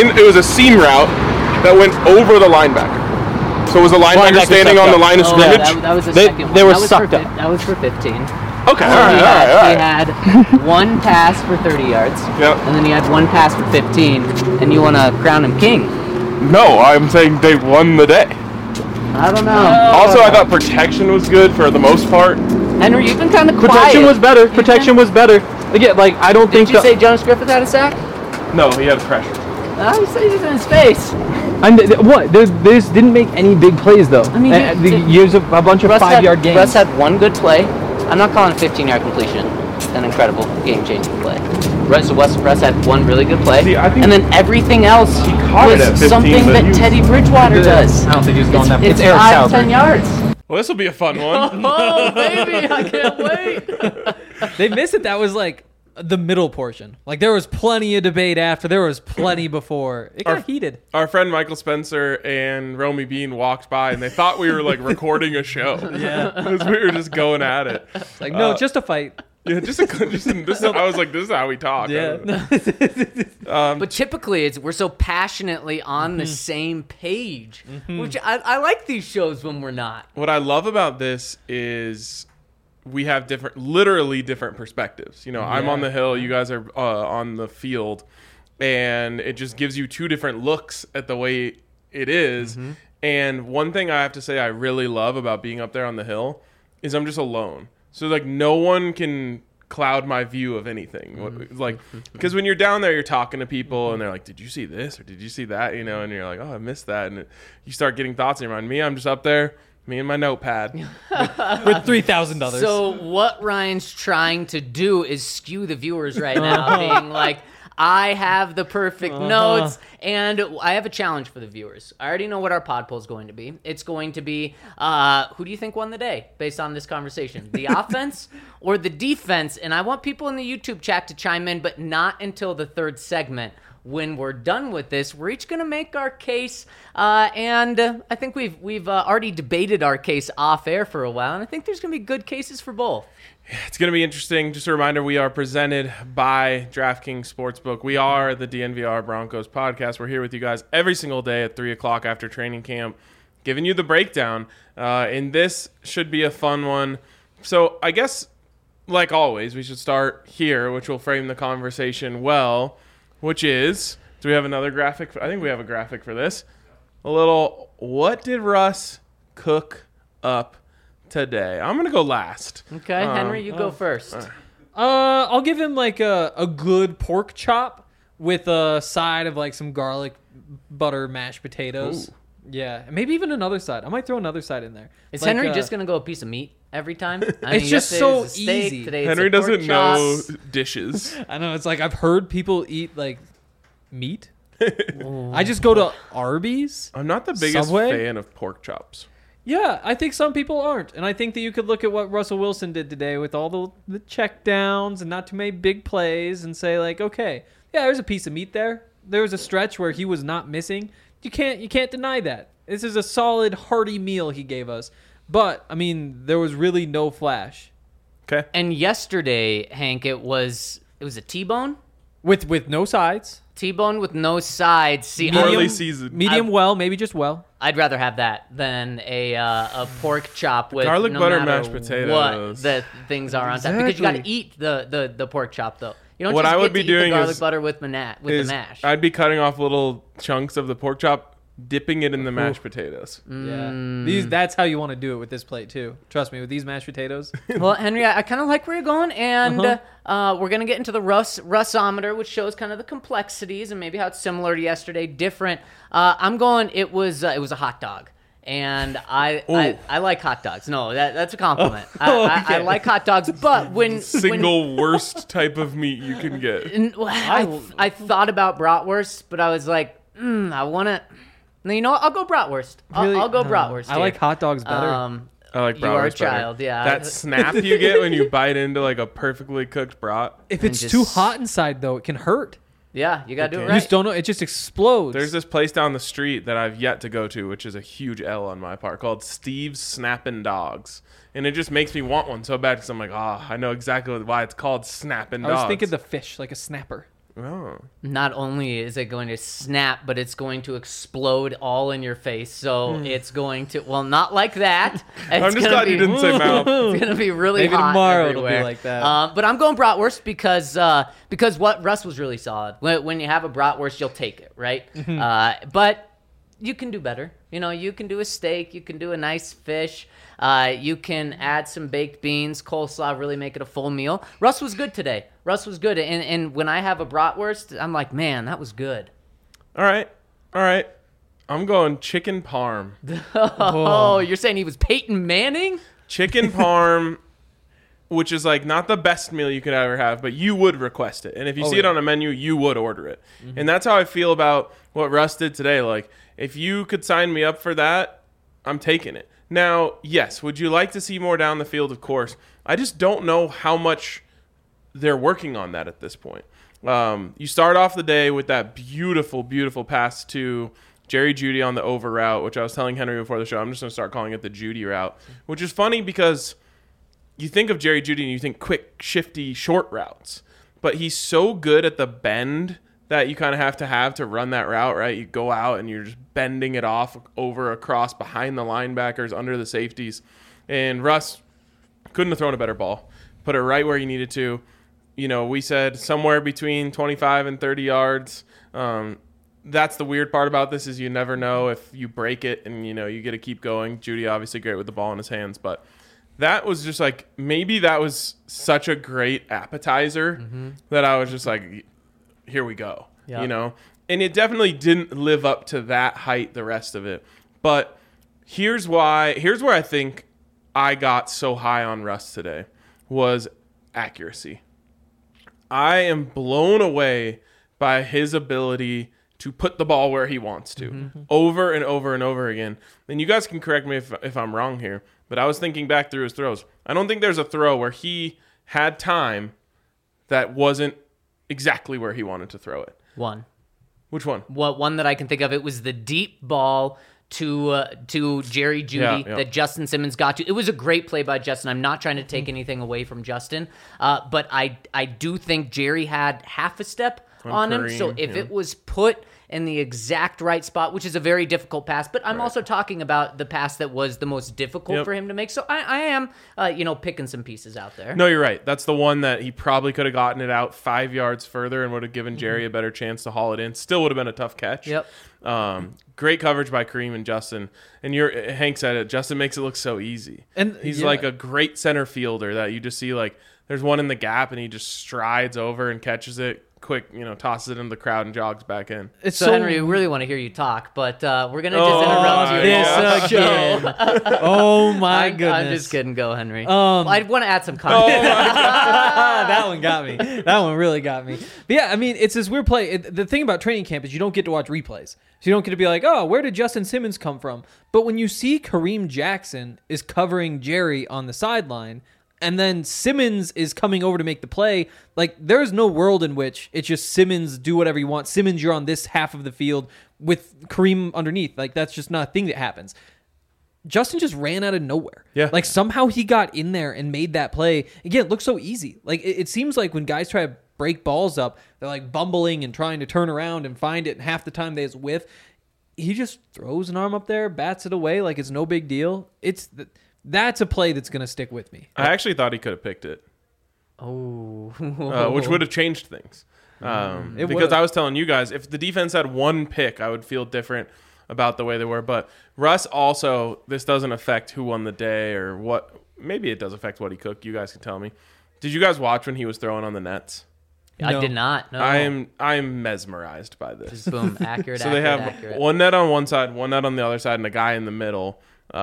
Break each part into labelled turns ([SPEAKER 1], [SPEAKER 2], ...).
[SPEAKER 1] it was a seam route that went over the linebacker. So was the linebacker standing on the line of scrimmage?
[SPEAKER 2] That was the second one.
[SPEAKER 3] They were
[SPEAKER 2] That was
[SPEAKER 3] sucked
[SPEAKER 2] for
[SPEAKER 3] up.
[SPEAKER 2] That was for 15.
[SPEAKER 1] Okay, all right.
[SPEAKER 2] He had one pass for 30 yards,
[SPEAKER 1] Yep.
[SPEAKER 2] and then he had one pass for 15, and you want to crown him king.
[SPEAKER 1] No, I'm saying they won the day.
[SPEAKER 2] I don't know.
[SPEAKER 1] Also, I thought protection was good for the most part.
[SPEAKER 2] Henry, you've been kind of quiet.
[SPEAKER 3] Protection was better. Protection was better. Again, like, I don't think
[SPEAKER 2] Did you say Jonas Griffith had a sack?
[SPEAKER 1] No, he had pressure.
[SPEAKER 2] You said he was in his face.
[SPEAKER 3] what? They just didn't make any big plays, though.
[SPEAKER 2] I mean,
[SPEAKER 3] Use a bunch of
[SPEAKER 2] Russ
[SPEAKER 3] 5-yard games.
[SPEAKER 2] Russ had one good play. I'm not calling a 15-yard completion an incredible game-changing play. Russ had one really good play,
[SPEAKER 1] See, I think
[SPEAKER 2] and then everything else
[SPEAKER 1] caught it at
[SPEAKER 2] was
[SPEAKER 1] 15,
[SPEAKER 2] something
[SPEAKER 1] but
[SPEAKER 2] that
[SPEAKER 1] he was-
[SPEAKER 2] Teddy Bridgewater does.
[SPEAKER 3] I don't think he was going that.
[SPEAKER 2] It's
[SPEAKER 3] Eric
[SPEAKER 2] 5
[SPEAKER 3] Sauber.
[SPEAKER 2] 10 yards.
[SPEAKER 1] Well, this will be a fun one.
[SPEAKER 2] Oh, baby, I can't wait.
[SPEAKER 4] They missed it. That was like the middle portion. Like there was plenty of debate after. There was plenty before. It got heated.
[SPEAKER 1] Our friend Michael Spencer and Romy Bean walked by, and they thought we were like recording a show.
[SPEAKER 4] Yeah.
[SPEAKER 1] Because we were just going at it.
[SPEAKER 4] It's like no, just a fight.
[SPEAKER 1] Yeah, I was like, this is how we talk.
[SPEAKER 4] Yeah.
[SPEAKER 2] But typically, we're so passionately on the same page, which I like these shows when we're not.
[SPEAKER 1] What I love about this is we have literally different perspectives. You know, I'm on the hill, you guys are on the field, and it just gives you two different looks at the way it is. And one thing I have to say I really love about being up there on the hill is I'm just alone. So, like, no one can cloud my view of anything. Like, because when you're down there, you're talking to people, and they're like, did you see this or did you see that? You know, and you're like, oh, I missed that. And you start getting thoughts in your mind. Me, I'm just up there, me and my notepad.
[SPEAKER 4] For $3,000.
[SPEAKER 2] So what Ryan's trying to do is skew the viewers right now, being like, I have the perfect notes, and I have a challenge for the viewers. I already know what our pod poll is going to be. It's going to be, who do you think won the day based on this conversation? The offense or the defense? And I want people in the YouTube chat to chime in, but not until the third segment. When we're done with this, we're each going to make our case, and I think we've already debated our case off air for a while, and I think there's going to be good cases for both.
[SPEAKER 1] It's going to be interesting. Just a reminder, we are presented by DraftKings Sportsbook. We are the DNVR Broncos podcast. We're here with you guys every single day at 3 o'clock after training camp, giving you the breakdown, and this should be a fun one. So I guess, like always, we should start here, which will frame the conversation well. Which is, do we have another graphic? I think we have a graphic for this. A little, what did Russ cook up today? I'm going to go last.
[SPEAKER 2] Okay, Henry, you go first.
[SPEAKER 4] I'll give him like a good pork chop with a side of like some garlic butter mashed potatoes.
[SPEAKER 1] Ooh.
[SPEAKER 4] Yeah, maybe even another side. I might throw another side in there.
[SPEAKER 2] Is
[SPEAKER 4] Like,
[SPEAKER 2] Henry just going to go a piece of meat every time? I
[SPEAKER 4] It's just
[SPEAKER 2] yesterday
[SPEAKER 4] so
[SPEAKER 2] it was a steak,
[SPEAKER 4] easy.
[SPEAKER 2] today it's
[SPEAKER 1] Henry
[SPEAKER 2] a pork
[SPEAKER 1] doesn't know
[SPEAKER 2] chop.
[SPEAKER 1] dishes.
[SPEAKER 4] I know, it's like I've heard people eat like meat. I just go to Arby's.
[SPEAKER 1] I'm not the biggest
[SPEAKER 4] Subway?
[SPEAKER 1] fan of pork chops.
[SPEAKER 4] Yeah, I think some people aren't. And I think that you could look at what Russell Wilson did today with all the check downs and not too many big plays and say like, okay, yeah, there's a piece of meat there. There was a stretch where he was not missing. You can't deny that. This is a solid, hearty meal he gave us. But, I mean, there was really no flash.
[SPEAKER 1] Okay.
[SPEAKER 2] And yesterday, Hank, it was a T-bone?
[SPEAKER 4] With no sides.
[SPEAKER 2] T-bone with no sides. See,
[SPEAKER 1] Poorly seasoned.
[SPEAKER 4] Medium well, maybe just well.
[SPEAKER 2] I'd rather have that than a pork chop with
[SPEAKER 1] Garlic
[SPEAKER 2] no
[SPEAKER 1] butter
[SPEAKER 2] matter
[SPEAKER 1] mashed potatoes.
[SPEAKER 2] What the things are on top, because you got to eat the pork chop though. You don't
[SPEAKER 1] What
[SPEAKER 2] just
[SPEAKER 1] I
[SPEAKER 2] get
[SPEAKER 1] would
[SPEAKER 2] to
[SPEAKER 1] be
[SPEAKER 2] eat
[SPEAKER 1] doing
[SPEAKER 2] the garlic
[SPEAKER 1] is-
[SPEAKER 2] butter with the mash.
[SPEAKER 1] I'd be cutting off little chunks of the pork chop, dipping it in the mashed potatoes.
[SPEAKER 4] Yeah. That's how you want to do it with this plate too. Trust me, with these mashed potatoes.
[SPEAKER 2] Well, Henry, I kind of like where you're going, and we're gonna get into the Russometer, which shows kind of the complexities and maybe how it's similar to yesterday, different. I'm going. It was a hot dog. And I like hot dogs. No, that's a compliment. I like hot dogs, but when
[SPEAKER 1] Worst type of meat you can get.
[SPEAKER 2] I thought about bratwurst, but I was like, I want to. No, you know what? I'll go bratwurst. I'll go bratwurst.
[SPEAKER 4] I like hot dogs better.
[SPEAKER 1] I like
[SPEAKER 2] You are a
[SPEAKER 1] bratwurst better.
[SPEAKER 2] child, yeah.
[SPEAKER 1] That snap you get when you bite into like a perfectly cooked brat.
[SPEAKER 4] If
[SPEAKER 2] and
[SPEAKER 4] it's
[SPEAKER 2] just-
[SPEAKER 4] too hot inside though, it can hurt.
[SPEAKER 2] Yeah, you gotta do it
[SPEAKER 1] Okay.
[SPEAKER 4] You
[SPEAKER 2] right.
[SPEAKER 4] just don't know. It just explodes.
[SPEAKER 1] There's this place down the street that I've yet to go to, which is a huge L on my part, called Steve's Snappin' Dogs. And it just makes me want one so bad because I'm like, I know exactly why it's called Snappin' Dogs.
[SPEAKER 4] I was thinking the fish, like a snapper.
[SPEAKER 1] Oh.
[SPEAKER 2] Not only is it going to snap, but it's going to explode all in your face. So it's going to, well, not like that.
[SPEAKER 1] I'm just glad you didn't say mouth.
[SPEAKER 2] It's going to be really
[SPEAKER 4] Maybe
[SPEAKER 2] hot
[SPEAKER 4] tomorrow
[SPEAKER 2] everywhere.
[SPEAKER 4] it'll be like that.
[SPEAKER 2] But I'm going bratwurst because what Russ was really solid. When you have a bratwurst, you'll take it, right? But you can do better. You can do a steak. You can do a nice fish. You can add some baked beans, coleslaw, really make it a full meal. Russ was good today. Russ was good. And when I have a bratwurst, I'm like, man, that was good.
[SPEAKER 1] All right. I'm going chicken parm.
[SPEAKER 2] Oh, you're saying he was Peyton Manning?
[SPEAKER 1] Chicken parm, which is like not the best meal you could ever have, but you would request it. And if you see it on a menu, you would order it. And that's how I feel about what Russ did today. Like, if you could sign me up for that, I'm taking it. Now, yes, would you like to see more down the field? Of course. I just don't know how much they're working on that at this point. You start off the day with that beautiful, beautiful pass to Jerry Jeudy on the over route, which I was telling Henry before the show. I'm just going to start calling it the Jeudy route, which is funny because you think of Jerry Jeudy and you think quick, shifty, short routes. But he's so good at the bend that you kind of have to run that route, right? You go out and you're just bending it off over across behind the linebackers, under the safeties. And Russ couldn't have thrown a better ball. Put it right where you needed to. We said somewhere between 25 and 30 yards. That's the weird part about this is you never know if you break it and, you get to keep going. Jeudy obviously great with the ball in his hands, but that was just like, maybe that was such a great appetizer that I was just like, here we go, and it definitely didn't live up to that height, the rest of it. But here's where I think I got so high on Russ today was accuracy. I am blown away by his ability to put the ball where he wants to over and over and over again. And you guys can correct me if I'm wrong here, but I was thinking back through his throws. I don't think there's a throw where he had time that wasn't exactly where he wanted to throw it.
[SPEAKER 2] One.
[SPEAKER 1] Which one?
[SPEAKER 2] One that I can think of, it was the deep ball to Jerry Jeudy that Justin Simmons got to. It was a great play by Justin. I'm not trying to take anything away from Justin, but I do think Jerry had half a step on him. So if it was put in the exact right spot, which is a very difficult pass, but I'm also talking about the pass that was the most difficult for him to make. So I am, picking some pieces out there.
[SPEAKER 1] No, you're right. That's the one that he probably could have gotten it out 5 yards further and would have given Jerry a better chance to haul it in. Still would have been a tough catch.
[SPEAKER 2] Yep.
[SPEAKER 1] Great coverage by Kareem and Justin. And Hank said it. Justin makes it look so easy.
[SPEAKER 4] And
[SPEAKER 1] he's like a great center fielder that you just see like there's one in the gap and he just strides over and catches it quick, tosses it into the crowd and jogs back in.
[SPEAKER 2] So Henry, we really want to hear you talk, but we're going to just interrupt you.
[SPEAKER 4] This again. Oh my goodness.
[SPEAKER 2] I'm just kidding. Go, Henry. I want to add some context.
[SPEAKER 4] That one got me. That one really got me. But yeah, I mean, it's this weird play. The thing about training camp is you don't get to watch replays. So you don't get to be like, oh, where did Justin Simmons come from? But when you see Kareem Jackson is covering Jerry on the sideline, and then Simmons is coming over to make the play, like there's no world in which it's just Simmons, do whatever you want. Simmons, you're on this half of the field with Kareem underneath. Like that's just not a thing that happens. Justin just ran out of nowhere.
[SPEAKER 1] Yeah.
[SPEAKER 4] Like somehow he got in there and made that play. Again, it looks so easy. Like it seems like when guys try to break balls up, they're like bumbling and trying to turn around and find it, and half the time they just whiff. He just throws an arm up there, bats it away like it's no big deal. That's a play that's going to stick with me.
[SPEAKER 1] I actually thought he could have picked it.
[SPEAKER 2] Oh.
[SPEAKER 1] Which would have changed things. Because
[SPEAKER 4] would've.
[SPEAKER 1] I was telling you guys, if the defense had one pick, I would feel different about the way they were. But Russ also, this doesn't affect who won the day or what. Maybe it does affect what he cooked. You guys can tell me. Did you guys watch when he was throwing on the nets?
[SPEAKER 2] I did not. No.
[SPEAKER 1] I am mesmerized by this.
[SPEAKER 2] Just boom, accurate.
[SPEAKER 1] So they have one net on one side, one net on the other side, and a guy in the middle.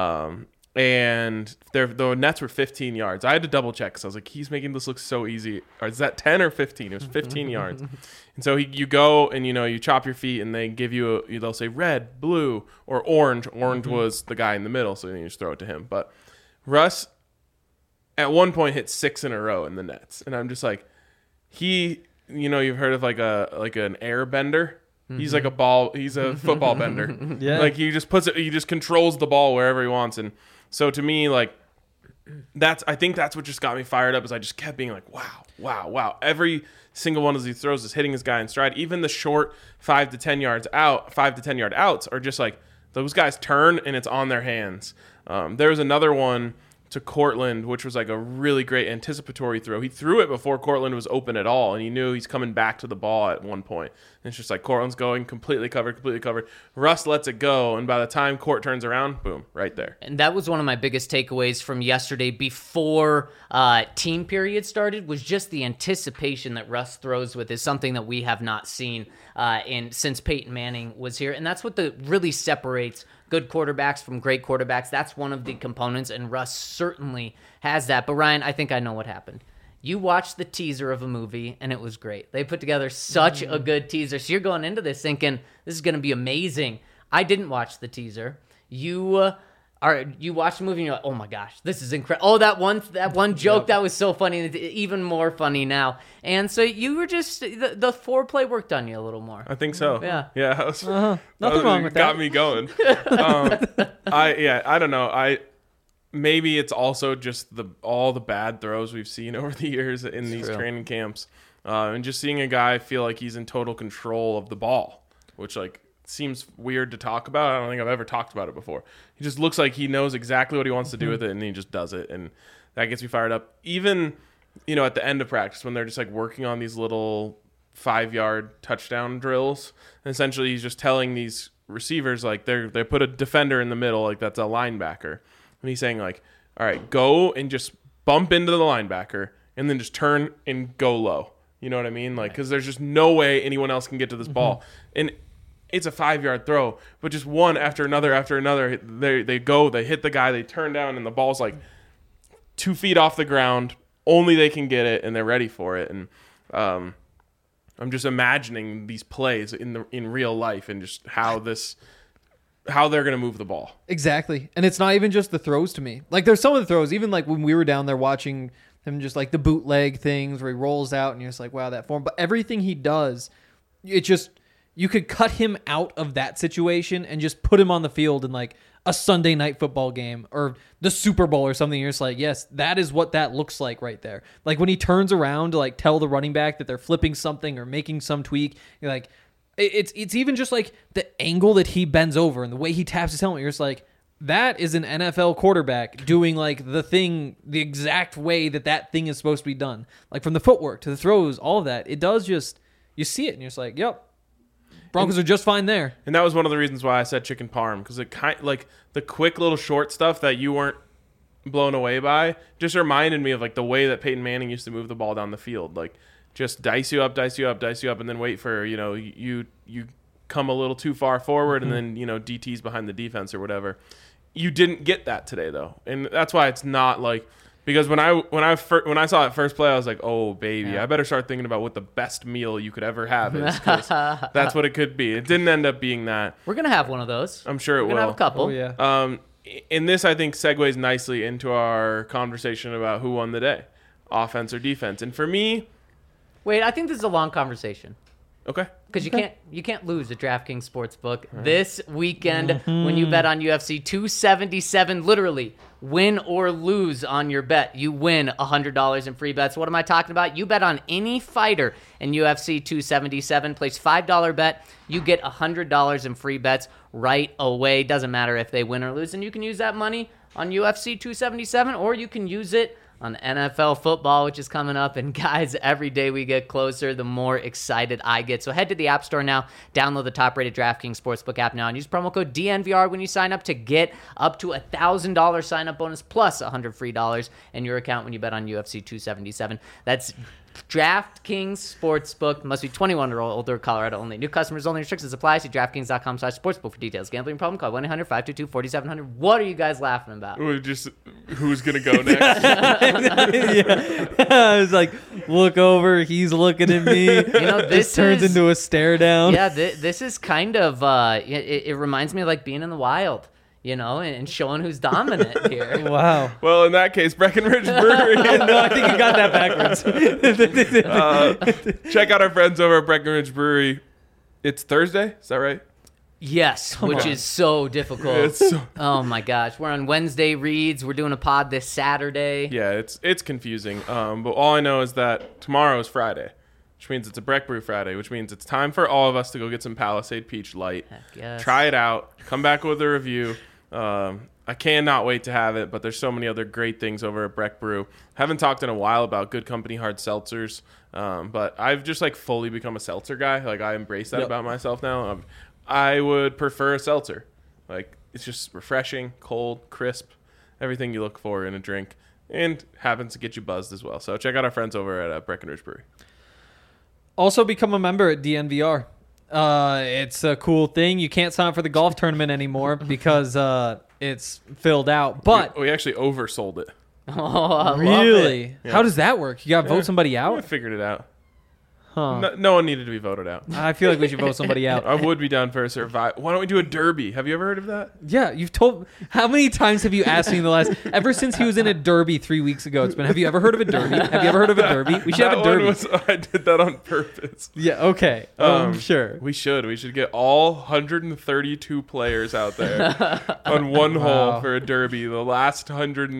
[SPEAKER 1] And the nets were 15 yards. I had to double check because I was like, he's making this look so easy. Or is that 10 or 15? It was 15 yards. And so you go and you chop your feet and they give you they'll say red, blue, or orange. Orange was the guy in the middle, so then you just throw it to him. But Russ at one point hit 6 in a row in the nets, and I'm just like, you've heard of like an air bender. He's like he's a football bender.
[SPEAKER 4] Yeah.
[SPEAKER 1] Like he just controls the ball wherever he wants. And so to me, like, I think that's what just got me fired up. Is I just kept being like, wow. Every single one of these throws is hitting his guy in stride. Even the short 5 to 10 yard outs are just like those guys turn and it's on their hands. There was another one to Cortland, which was like a really great anticipatory throw. He threw it before Cortland was open at all, and he knew he's coming back to the ball at one point. And it's just like Cortland's going completely covered. Russ lets it go, and by the time Court turns around, boom, right there.
[SPEAKER 2] And that was one of my biggest takeaways from yesterday before team period started, was just the anticipation that Russ throws with is something that we have not seen since Peyton Manning was here. And that's what really separates good quarterbacks from great quarterbacks. That's one of the components, and Russ certainly has that. But Ryan, I think I know what happened. You watched the teaser of a movie, and it was great. They put together such a good teaser. So you're going into this thinking, this is going to be amazing. I didn't watch the teaser. You watched the movie, and you're like, oh my gosh, this is incredible. Oh, that one joke, that was so funny. It's even more funny now. And so you were just, the foreplay worked on you a little more.
[SPEAKER 1] I think so.
[SPEAKER 2] Yeah.
[SPEAKER 1] Yeah.
[SPEAKER 4] Nothing wrong with that.
[SPEAKER 1] Got me going. I don't know. Maybe it's also just all the bad throws we've seen over the years in these training camps, and just seeing a guy feel like he's in total control of the ball, which like seems weird to talk about. I don't think I've ever talked about it before. He just looks like he knows exactly what he wants to do with it, and he just does it, and that gets me fired up. Even at the end of practice when they're just like working on these little 5-yard touchdown drills, and essentially he's just telling these receivers like they put a defender in the middle, like that's a linebacker. And he's saying, like, all right, go and just bump into the linebacker and then just turn and go low. You know what I mean? Like, because there's just no way anyone else can get to this ball. And it's a 5-yard throw, but just one after another, they hit the guy, they turn down, and the ball's like 2 feet off the ground. Only they can get it, and they're ready for it. And I'm just imagining these plays in real life and just how they're going to move the ball.
[SPEAKER 4] Exactly. And it's not even just the throws to me. Like, there's some of the throws, even like when we were down there watching him, just like the bootleg things where he rolls out and you're just like, wow, that form. But everything he does, it just, you could cut him out of that situation and just put him on the field in like a Sunday night football game or the Super Bowl or something. You're just like, yes, that is what that looks like right there. Like when he turns around to like tell the running back that they're flipping something or making some tweak, you're like, it's even just like the angle that he bends over and the way he taps his helmet. You're just like, that is an NFL quarterback doing like the thing, the exact way that thing is supposed to be done. Like from the footwork to the throws, all of that. It does just, you see it and you're just like, yep, Broncos are just fine there.
[SPEAKER 1] And that was one of the reasons why I said chicken parm, because it kind like the quick little short stuff that you weren't blown away by just reminded me of like the way that Peyton Manning used to move the ball down the field. Like, just dice you up, and then wait for, you come a little too far forward, and then, DT's behind the defense or whatever. You didn't get that today, though. And that's why it's not like, because when I saw that first play, I was like, oh, baby, I better start thinking about what the best meal you could ever have is, because that's what it could be. It didn't end up being that.
[SPEAKER 2] We're going to have one of those.
[SPEAKER 1] I'm sure it will.
[SPEAKER 2] We're going to have a couple.
[SPEAKER 4] Oh, yeah.
[SPEAKER 1] And this, I think, segues nicely into our conversation about who won the day, offense or defense. And for me...
[SPEAKER 2] Wait, I think this is a long conversation.
[SPEAKER 1] Okay.
[SPEAKER 2] Because you can't lose at DraftKings Sportsbook this weekend when you bet on UFC 277. Literally, win or lose on your bet, you win $100 in free bets. What am I talking about? You bet on any fighter in UFC 277. Place $5 bet, you get $100 in free bets right away. Doesn't matter if they win or lose, and you can use that money on UFC 277, or you can use it on NFL football, which is coming up. And guys, every day we get closer, the more excited I get. So head to the App Store now, download the top-rated DraftKings Sportsbook app now, and use promo code DNVR when you sign up to get up to $1,000 sign-up bonus plus $100 free in your account when you bet on UFC 277. That's DraftKings Sportsbook. Must be 21 or older, Colorado only. New customers only. Restrictions apply. See DraftKings.com/sportsbook for details. Gambling problem? Call 1-800-522-4700. What are you guys laughing about?
[SPEAKER 1] Who's going to go next?
[SPEAKER 4] I was like, look over. He's looking at me. This turns into a stare down.
[SPEAKER 2] Yeah, this is kind of, it reminds me of like being in the wild. And showing who's dominant here.
[SPEAKER 4] Wow.
[SPEAKER 1] Well, in that case, Breckenridge Brewery.
[SPEAKER 4] No, I think you got that backwards.
[SPEAKER 1] Check out our friends over at Breckenridge Brewery. It's Thursday, is that right?
[SPEAKER 2] Yes, which is so difficult.
[SPEAKER 1] It's so,
[SPEAKER 2] Oh my gosh, we're on Wednesday reads. We're doing a pod this Saturday.
[SPEAKER 1] yeah, it's confusing. But all I know is that tomorrow is Friday, which means it's a Breck Brew Friday, which means it's time for all of us to go get some Palisade Peach Light.
[SPEAKER 2] Heck yes.
[SPEAKER 1] Try it out. Come back with a review. I cannot wait to have it, but there's so many other great things over at Breck Brew. Haven't talked in a while about Good Company hard seltzers, but I've just like fully become a seltzer guy. Like I embrace that about myself now. I would prefer a seltzer. Like it's just refreshing, cold, crisp, everything you look for in a drink, and happens to get you buzzed as well. So check out our friends over at Breckenridge Brewery.
[SPEAKER 4] Also become a member at DNVR. It's a cool thing. You can't sign up for the golf tournament anymore because it's filled out. But
[SPEAKER 1] we actually oversold it.
[SPEAKER 2] Oh, I love
[SPEAKER 4] really,
[SPEAKER 2] it.
[SPEAKER 1] Yeah.
[SPEAKER 4] how does that work? You got to vote somebody
[SPEAKER 1] I
[SPEAKER 4] out?
[SPEAKER 1] figured it out.
[SPEAKER 4] Huh.
[SPEAKER 1] No one needed to be voted out.
[SPEAKER 4] I feel like we should vote somebody out.
[SPEAKER 1] I would be down for a survival. Why don't we do a derby? Have you ever heard of that?
[SPEAKER 4] Yeah, you've told. How many times have you asked me in the last? Ever since he was in a derby 3 weeks ago, it's been. Have you ever heard of a derby? Have you ever heard of a derby? We should have a derby.
[SPEAKER 1] I did that on purpose.
[SPEAKER 4] Yeah. Okay. Sure.
[SPEAKER 1] We should get all 132 players out there on one
[SPEAKER 4] Wow.
[SPEAKER 1] hole for a derby. The last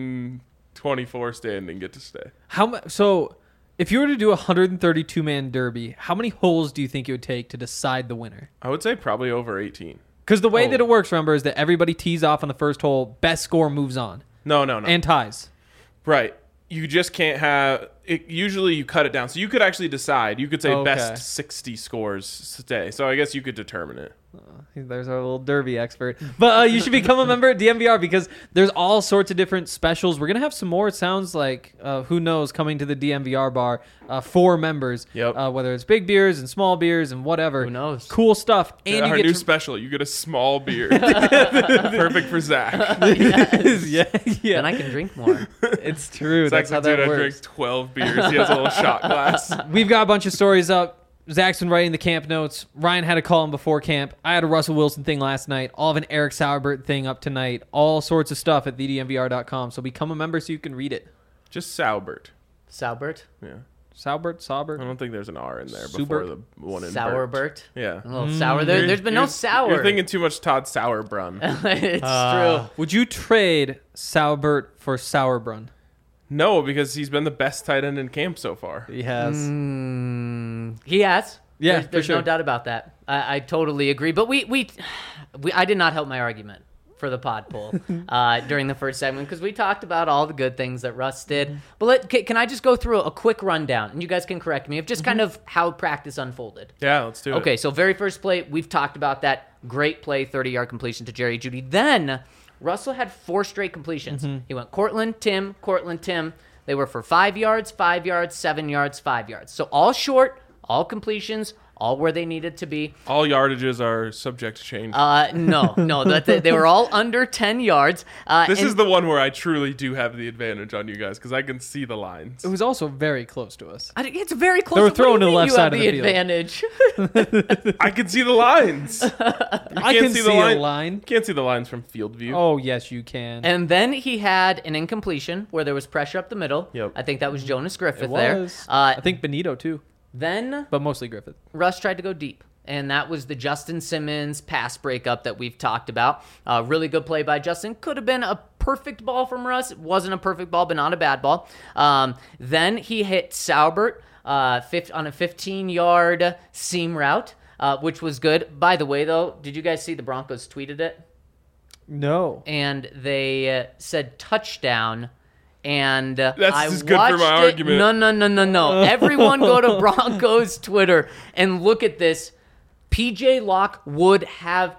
[SPEAKER 1] 124 standing get to stay.
[SPEAKER 4] How much? So, if you were to do a 132-man derby, how many holes do you think it would take to decide the winner?
[SPEAKER 1] I would say probably over 18.
[SPEAKER 4] Because the way
[SPEAKER 1] Oh.
[SPEAKER 4] that it works, remember, is that everybody tees off on the first hole. Best score moves on
[SPEAKER 1] No.
[SPEAKER 4] and ties.
[SPEAKER 1] Right. You just can't have it. Usually you cut it down. So you could actually decide. You could say
[SPEAKER 4] Okay.
[SPEAKER 1] best 60 scores stay. So I guess you could determine it.
[SPEAKER 4] There's our little derby expert. But you should become a member at DMVR because there's all sorts of different specials. We're going to have some more, it sounds like, who knows, coming to the DMVR bar for members.
[SPEAKER 1] Yep.
[SPEAKER 4] Whether it's big beers and small beers and whatever.
[SPEAKER 2] Who knows?
[SPEAKER 4] Cool stuff. And
[SPEAKER 1] Our
[SPEAKER 4] you
[SPEAKER 1] new
[SPEAKER 4] get to...
[SPEAKER 1] special. You get a small beer. Perfect for Zach.
[SPEAKER 4] yeah,
[SPEAKER 2] Then I can drink more.
[SPEAKER 4] It's true.
[SPEAKER 1] Zach's
[SPEAKER 4] That's how
[SPEAKER 1] like, dude,
[SPEAKER 4] that
[SPEAKER 1] I
[SPEAKER 4] works.
[SPEAKER 1] drank 12 beers. He has a little shot glass.
[SPEAKER 4] We've got a bunch of stories up. Zach's been writing the camp notes. Ryan had a call in before camp. I had a Russell Wilson thing last night. All of an Eric Sauerbert thing up tonight. All sorts of stuff at thedmvr.com. So become a member so you can read it.
[SPEAKER 1] Just Saubert.
[SPEAKER 2] Sauerbert?
[SPEAKER 1] Yeah.
[SPEAKER 4] Saubert?
[SPEAKER 1] I don't think there's an R in there before the one in Bert.
[SPEAKER 2] Sauerbert?
[SPEAKER 1] Yeah.
[SPEAKER 2] A little sour. There's been no sour.
[SPEAKER 1] You're thinking too much Todd Sauerbrunn.
[SPEAKER 2] It's true.
[SPEAKER 4] Would you trade Sauerbert for Sauerbrunn?
[SPEAKER 1] No, because he's been the best tight end in camp so far.
[SPEAKER 4] He has.
[SPEAKER 2] He has.
[SPEAKER 4] Yeah,
[SPEAKER 2] There's
[SPEAKER 4] for
[SPEAKER 2] no
[SPEAKER 4] sure.
[SPEAKER 2] doubt about that. I totally agree. But I did not help my argument for the pod poll during the first segment because we talked about all the good things that Russ did. But can I just go through a quick rundown, and you guys can correct me, of just kind of how practice unfolded.
[SPEAKER 1] Yeah, let's do it.
[SPEAKER 2] Okay, so very first play, we've talked about that. Great play, 30-yard completion to Jerry Jeudy. Then Russell had 4 straight completions. He went Cortland, Tim. They were for 5 yards, 5 yards, 7 yards, 5 yards. So all short, all completions, all where they needed to be.
[SPEAKER 1] All yardages are subject to change.
[SPEAKER 2] No, they were all under 10 yards.
[SPEAKER 1] This is the one where I truly do have the advantage on you guys because I can see the lines.
[SPEAKER 4] It was also very close to us.
[SPEAKER 2] It's very close.
[SPEAKER 4] They were
[SPEAKER 2] What do
[SPEAKER 4] throwing
[SPEAKER 2] you
[SPEAKER 4] to the
[SPEAKER 2] mean
[SPEAKER 4] left
[SPEAKER 2] you
[SPEAKER 4] side
[SPEAKER 2] have
[SPEAKER 4] of the field.
[SPEAKER 2] advantage.
[SPEAKER 1] I can see the lines.
[SPEAKER 4] I can see a line.
[SPEAKER 1] You can't see the lines from field view.
[SPEAKER 4] Oh, yes, you can.
[SPEAKER 2] And then he had an incompletion where there was pressure up the middle.
[SPEAKER 1] Yep.
[SPEAKER 2] I think that was Jonas Griffith
[SPEAKER 4] it
[SPEAKER 2] there.
[SPEAKER 4] was. I think Benito, too.
[SPEAKER 2] Then
[SPEAKER 4] But mostly Griffith.
[SPEAKER 2] Russ tried to go deep, and that was the Justin Simmons pass breakup that we've talked about. Really good play by Justin. Could have been a perfect ball from Russ. It wasn't a perfect ball, but not a bad ball. Then he hit Sauerbert on a 15-yard seam route, which was good. By the way, though, did you guys see the Broncos tweeted it?
[SPEAKER 4] No.
[SPEAKER 2] And they said touchdown. And
[SPEAKER 1] That's
[SPEAKER 2] I
[SPEAKER 1] just good for
[SPEAKER 2] watched
[SPEAKER 1] my
[SPEAKER 2] it.
[SPEAKER 1] argument.
[SPEAKER 2] No. Everyone go to Broncos Twitter and look at this. PJ Locke would have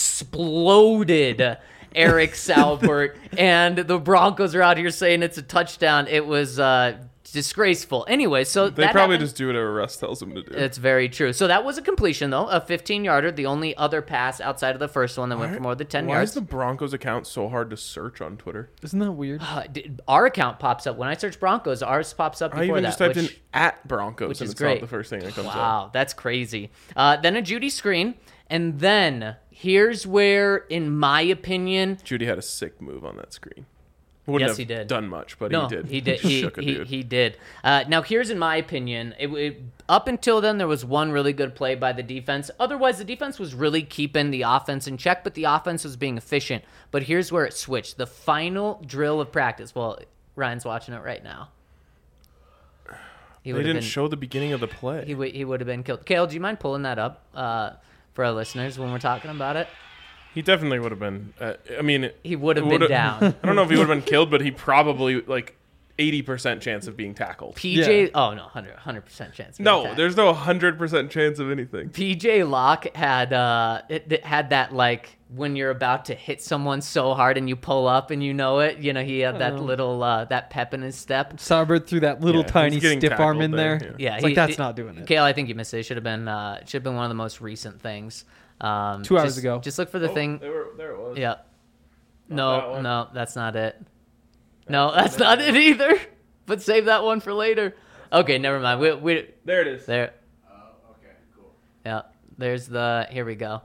[SPEAKER 2] exploded Eric Sauerbert, and the Broncos are out here saying it's a touchdown. It was disgraceful. Anyway, so
[SPEAKER 1] They
[SPEAKER 2] that
[SPEAKER 1] probably
[SPEAKER 2] happened.
[SPEAKER 1] just do whatever Russ tells them to do.
[SPEAKER 2] It's very true. So that was a completion, though, a 15-yarder, the only other pass outside of the first one that went for more than 10
[SPEAKER 1] Why
[SPEAKER 2] yards.
[SPEAKER 1] is the Broncos account so hard to search on Twitter?
[SPEAKER 4] Isn't that weird?
[SPEAKER 2] Our account pops up. When I search Broncos, ours pops up
[SPEAKER 1] I
[SPEAKER 2] before
[SPEAKER 1] even
[SPEAKER 2] that.
[SPEAKER 1] just typed
[SPEAKER 2] which,
[SPEAKER 1] in at Broncos
[SPEAKER 2] which
[SPEAKER 1] and
[SPEAKER 2] is
[SPEAKER 1] it's
[SPEAKER 2] great.
[SPEAKER 1] not the first thing that comes up.
[SPEAKER 2] Wow, that's crazy. Then a Judy screen. And then here's where, in my opinion,
[SPEAKER 1] Judy had a sick move on that screen. Wouldn't
[SPEAKER 2] Yes,
[SPEAKER 1] have
[SPEAKER 2] he did.
[SPEAKER 1] done much, but
[SPEAKER 2] No,
[SPEAKER 1] he did.
[SPEAKER 2] he did.
[SPEAKER 1] Shook a dude.
[SPEAKER 2] He did. Now, here's in my opinion. Up until then, there was one really good play by the defense. Otherwise, the defense was really keeping the offense in check, but the offense was being efficient. But here's where it switched. The final drill of practice. Well, Ryan's watching it right now.
[SPEAKER 1] They didn't show the beginning of the play.
[SPEAKER 2] He would have been killed. Kale, do you mind pulling that up for our listeners when we're talking about it?
[SPEAKER 1] He definitely would have been. I mean,
[SPEAKER 2] He would have been down.
[SPEAKER 1] I don't know if he would have been killed, but he probably 80% chance of being tackled.
[SPEAKER 2] PJ, oh no, 100% chance.
[SPEAKER 1] No, there's no 100% chance of anything.
[SPEAKER 2] PJ Locke had it had that when you're about to hit someone so hard and you pull up and you know it. He had that little that pep in his step.
[SPEAKER 4] Sauber threw that little
[SPEAKER 1] Yeah,
[SPEAKER 4] tiny
[SPEAKER 1] he's getting
[SPEAKER 4] stiff arm
[SPEAKER 1] tackled
[SPEAKER 4] in
[SPEAKER 1] there,
[SPEAKER 4] there.
[SPEAKER 1] yeah.
[SPEAKER 2] Yeah,
[SPEAKER 4] It's that's not doing it.
[SPEAKER 2] Kale, I think you missed it. It should have been one of the most recent things.
[SPEAKER 4] 2 hours ago.
[SPEAKER 2] Just look for the thing.
[SPEAKER 1] There it was.
[SPEAKER 2] Yeah.
[SPEAKER 1] that
[SPEAKER 2] No,
[SPEAKER 1] one.
[SPEAKER 2] no, that's not it. No, that's not it either. But save that one for later. Okay, never mind. We
[SPEAKER 1] There it is.
[SPEAKER 2] there.
[SPEAKER 5] Okay, cool.
[SPEAKER 2] Yeah, there's here we go.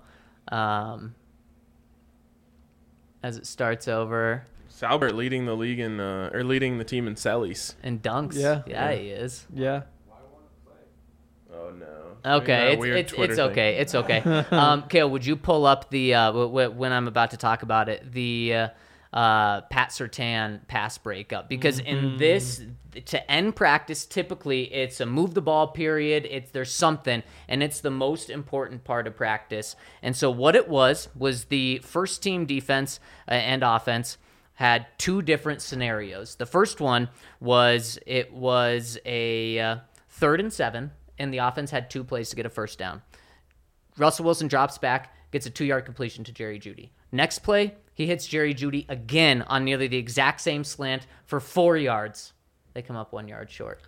[SPEAKER 2] As it starts over
[SPEAKER 1] Salbert leading the league or leading the team in Sellies.
[SPEAKER 2] and dunks.
[SPEAKER 4] Yeah.
[SPEAKER 2] He is.
[SPEAKER 4] Yeah.
[SPEAKER 1] Oh no.
[SPEAKER 2] Okay,
[SPEAKER 1] Weird
[SPEAKER 2] it's
[SPEAKER 1] Twitter
[SPEAKER 2] okay. It's okay. Kale, would you pull up the when I'm about to talk about it, the Pat Surtain pass breakup? Because in this, to end practice, typically it's a move the ball period. There's something, and it's the most important part of practice. And so what it was the first team defense and offense had two different scenarios. The first one was a 3rd and 7. And the offense had 2 plays to get a first down. Russell Wilson drops back, gets a 2-yard completion to Jerry Jeudy. Next play, he hits Jerry Jeudy again on nearly the exact same slant for 4 yards. They come up 1 yard short.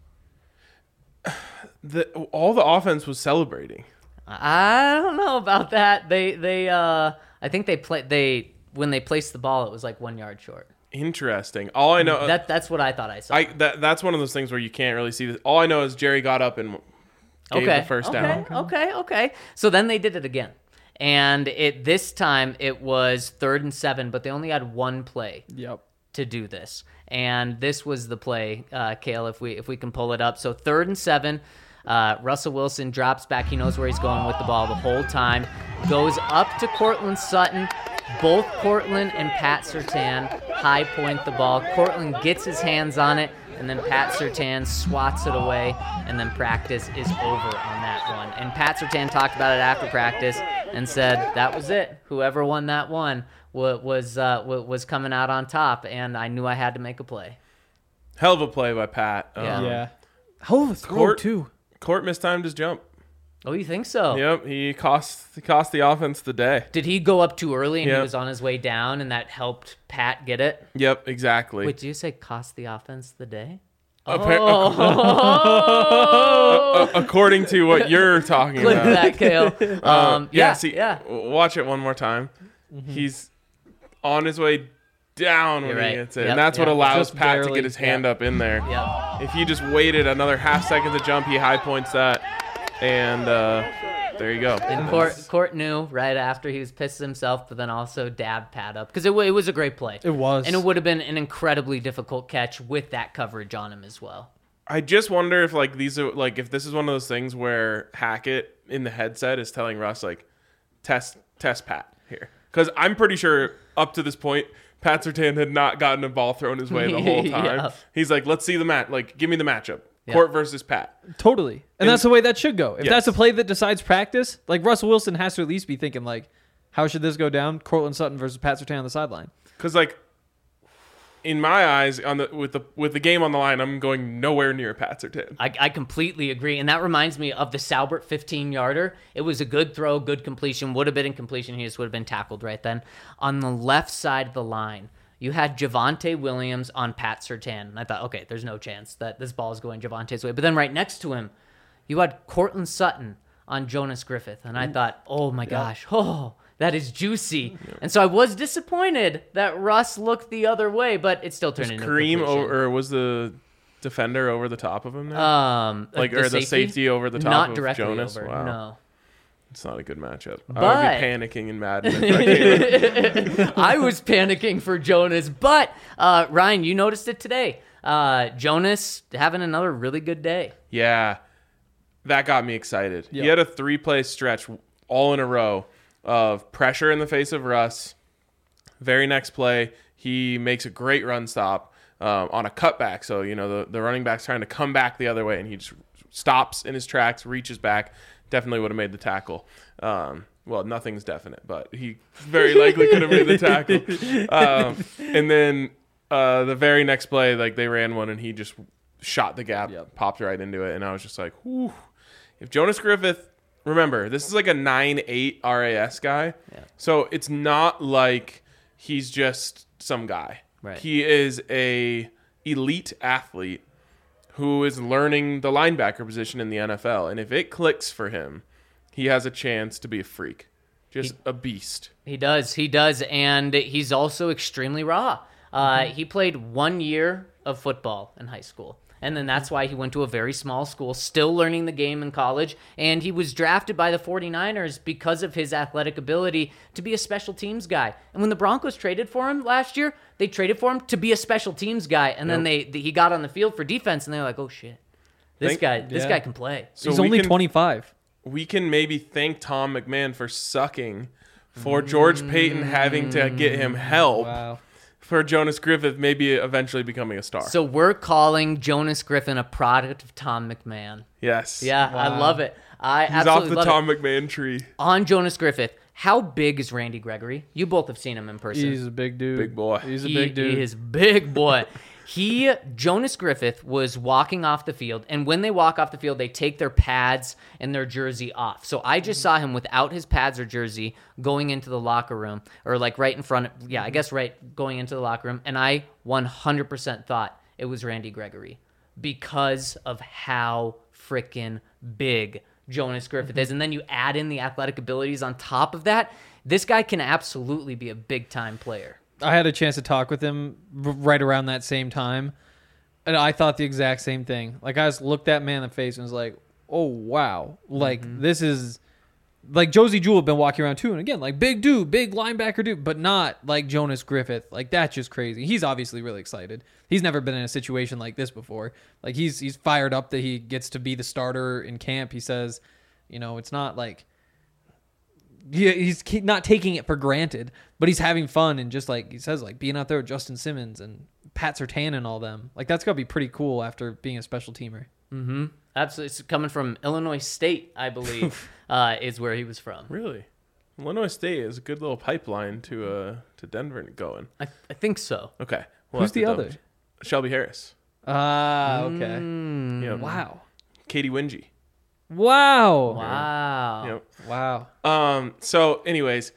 [SPEAKER 1] All the offense was celebrating.
[SPEAKER 2] I don't know about that. I think when they placed the ball, it was 1 yard short.
[SPEAKER 1] Interesting. All I know
[SPEAKER 2] That's what I thought I saw.
[SPEAKER 1] that's one of those things where you can't really see this. All I know is Jerry got up and gave the first down.
[SPEAKER 2] Okay. So then they did it again. And this time it was 3rd and 7, but they only had 1 play
[SPEAKER 4] Yep.
[SPEAKER 2] to do this. And this was the play, Kale, if we can pull it up. So 3rd and 7, Russell Wilson drops back. He knows where he's going with the ball the whole time. Goes up to Courtland Sutton. Both Courtland and Pat Surtain high point the ball. Courtland gets his hands on it, and then Pat Surtain swats it away, and then practice is over on that one. And Pat Surtain talked about it after practice and said that was it. Whoever won that one was coming out on top, and I knew I had to make a play.
[SPEAKER 1] Hell of a play by Pat.
[SPEAKER 2] Yeah.
[SPEAKER 4] Hell of a throw,
[SPEAKER 1] Court-
[SPEAKER 4] too.
[SPEAKER 1] Court mistimed his jump.
[SPEAKER 2] Oh, you think so?
[SPEAKER 1] Yep, he cost the offense the day.
[SPEAKER 2] Did he go up too early and he
[SPEAKER 1] Yep.
[SPEAKER 2] was on his way down, and that helped Pat get it?
[SPEAKER 1] Yep, exactly.
[SPEAKER 2] Wait, did you say cost the offense the day?
[SPEAKER 1] According to what you're talking
[SPEAKER 2] Clip
[SPEAKER 1] about.
[SPEAKER 2] that, Kale.
[SPEAKER 1] See, watch it one more time. He's on his way down when
[SPEAKER 2] You're
[SPEAKER 1] he
[SPEAKER 2] right.
[SPEAKER 1] hits it.
[SPEAKER 2] Yep,
[SPEAKER 1] And that's what
[SPEAKER 2] yep.
[SPEAKER 1] allows
[SPEAKER 4] Just
[SPEAKER 1] Pat to
[SPEAKER 4] barely,
[SPEAKER 1] get his hand up in there.
[SPEAKER 2] Yep.
[SPEAKER 1] If he just waited another half second to jump, he high points that. And there you go.
[SPEAKER 2] And Court knew right after he was pissed at himself, but then also dabbed Pat up because it was a great play.
[SPEAKER 4] It was.
[SPEAKER 2] And it would have been an incredibly difficult catch with that coverage on him as well.
[SPEAKER 1] I just wonder if these are if this is one of those things where Hackett in the headset is telling Russ test Pat here, because I'm pretty sure up to this point Pat Surtain had not gotten a ball thrown his way the whole time.
[SPEAKER 2] Yeah.
[SPEAKER 1] He's like, let's see the match. Give me the matchup.
[SPEAKER 2] Yeah.
[SPEAKER 1] Court versus Pat.
[SPEAKER 4] Totally. And that's the way that should go. If
[SPEAKER 1] Yes.
[SPEAKER 4] that's a play that decides practice, Russell Wilson has to at least be thinking, how should this go down? Courtland Sutton versus Pat Surtain on the sideline.
[SPEAKER 1] Because in my eyes, with the game on the line, I'm going nowhere near Pat Surtain.
[SPEAKER 2] I completely agree. And that reminds me of the Salbert 15-yarder. It was a good throw, good completion. Would have been incompletion. He just would have been tackled right then. On the left side of the line, you had Javonte Williams on Pat Surtain. And I thought, okay, there's no chance that this ball is going Javonte's way. But then right next to him, you had Courtland Sutton on Jonas Griffith. And I thought, oh my gosh, that is juicy. And so I was disappointed that Russ looked the other way, but it still turned into a
[SPEAKER 1] Kareem
[SPEAKER 2] completion.
[SPEAKER 1] or was the defender over the top of him there?
[SPEAKER 2] Or
[SPEAKER 1] the safety over the top
[SPEAKER 2] Not
[SPEAKER 1] of
[SPEAKER 2] directly
[SPEAKER 1] Jonas?
[SPEAKER 2] over.
[SPEAKER 1] Wow.
[SPEAKER 2] No.
[SPEAKER 1] It's not a good matchup. I
[SPEAKER 2] But-
[SPEAKER 1] would be panicking in Madden. If I came.
[SPEAKER 2] I was panicking for Jonas, but Ryan, you noticed it today. Jonas having another really good day.
[SPEAKER 1] Yeah, that got me excited.
[SPEAKER 4] Yeah.
[SPEAKER 1] He had a 3-play stretch all in a row of pressure in the face of Russ. Very next play, he makes a great run stop on a cutback. So, the running back's trying to come back the other way, and he just stops in his tracks, reaches back. Definitely would have made the tackle. Well, nothing's definite, but he very likely could have made the tackle. And then the very next play, like they ran one, and he just shot the gap, popped right into it, and I was just like, whew. If Jonas Griffith, remember, this is like a 9.8 RAS guy, so it's not like he's just some guy.
[SPEAKER 2] Right.
[SPEAKER 1] He is a elite athlete who is learning the linebacker position in the NFL. And if it clicks for him, he has a chance to be a freak. Just a beast.
[SPEAKER 2] He does. And he's also extremely raw. He played 1 year of football in high school. And then that's why he went to a very small school, still learning the game in college. And he was drafted by the 49ers because of his athletic ability to be a special teams guy. And when the Broncos traded for him last year, they traded for him to be a special teams guy. And then he got on the field for defense, and they were like, oh, shit. This guy can play.
[SPEAKER 1] So
[SPEAKER 4] He's only 25.
[SPEAKER 1] We can maybe thank Tom McMahon for sucking, for George Payton having to get him help,
[SPEAKER 4] Wow.
[SPEAKER 1] for Jonas Griffith maybe eventually becoming a star.
[SPEAKER 2] So we're calling Jonas Griffin a product of Tom McMahon.
[SPEAKER 1] Yes.
[SPEAKER 2] Yeah, I
[SPEAKER 4] Wow.
[SPEAKER 2] love it. I
[SPEAKER 1] He's off
[SPEAKER 2] absolutely
[SPEAKER 1] the
[SPEAKER 2] love
[SPEAKER 1] Tom
[SPEAKER 2] it.
[SPEAKER 1] McMahon tree.
[SPEAKER 2] On Jonas Griffith, how big is Randy Gregory? You both have seen him in person.
[SPEAKER 4] He's a big dude.
[SPEAKER 1] Big boy.
[SPEAKER 4] He's a big dude.
[SPEAKER 2] He is big boy. Jonas Griffith was walking off the field, and when they walk off the field, they take their pads and their jersey off. So I just saw him without his pads or jersey going into the locker room, or like right in front. I guess right going into the locker room, and I 100% thought it was Randy Gregory because of how freaking big Jonas Griffith is. And then you add in the athletic abilities on top of that. This guy can absolutely be a big-time player.
[SPEAKER 4] I had a chance to talk with him right around that same time, and I thought the exact same thing. Like, I just looked that man in the face and was like, oh, wow. Like, this is... Like, Josie Jewell had been walking around, too, and again, like, big dude, big linebacker dude, but not like Jonas Griffith. Like, that's just crazy. He's obviously really excited. He's never been in a situation like this before. Like, he's fired up that he gets to be the starter in camp. He says, it's not like... He's not taking it for granted, but he's having fun, and just like he says, like being out there with Justin Simmons and Pat Surtain and all them, like that's gotta be pretty cool after being a special teamer.
[SPEAKER 2] Mm-hmm. Absolutely. It's coming from Illinois State, I believe, is where he was from.
[SPEAKER 1] Really? Illinois State is a good little pipeline to Denver going.
[SPEAKER 2] I think so.
[SPEAKER 1] Okay.
[SPEAKER 4] Who's the other?
[SPEAKER 1] Shelby Harris.
[SPEAKER 4] Ah, okay.
[SPEAKER 1] Yep.
[SPEAKER 4] Wow.
[SPEAKER 1] Katie Wingy.
[SPEAKER 4] Wow.
[SPEAKER 2] Wow.
[SPEAKER 1] Yep.
[SPEAKER 4] Wow.
[SPEAKER 1] So, anyways,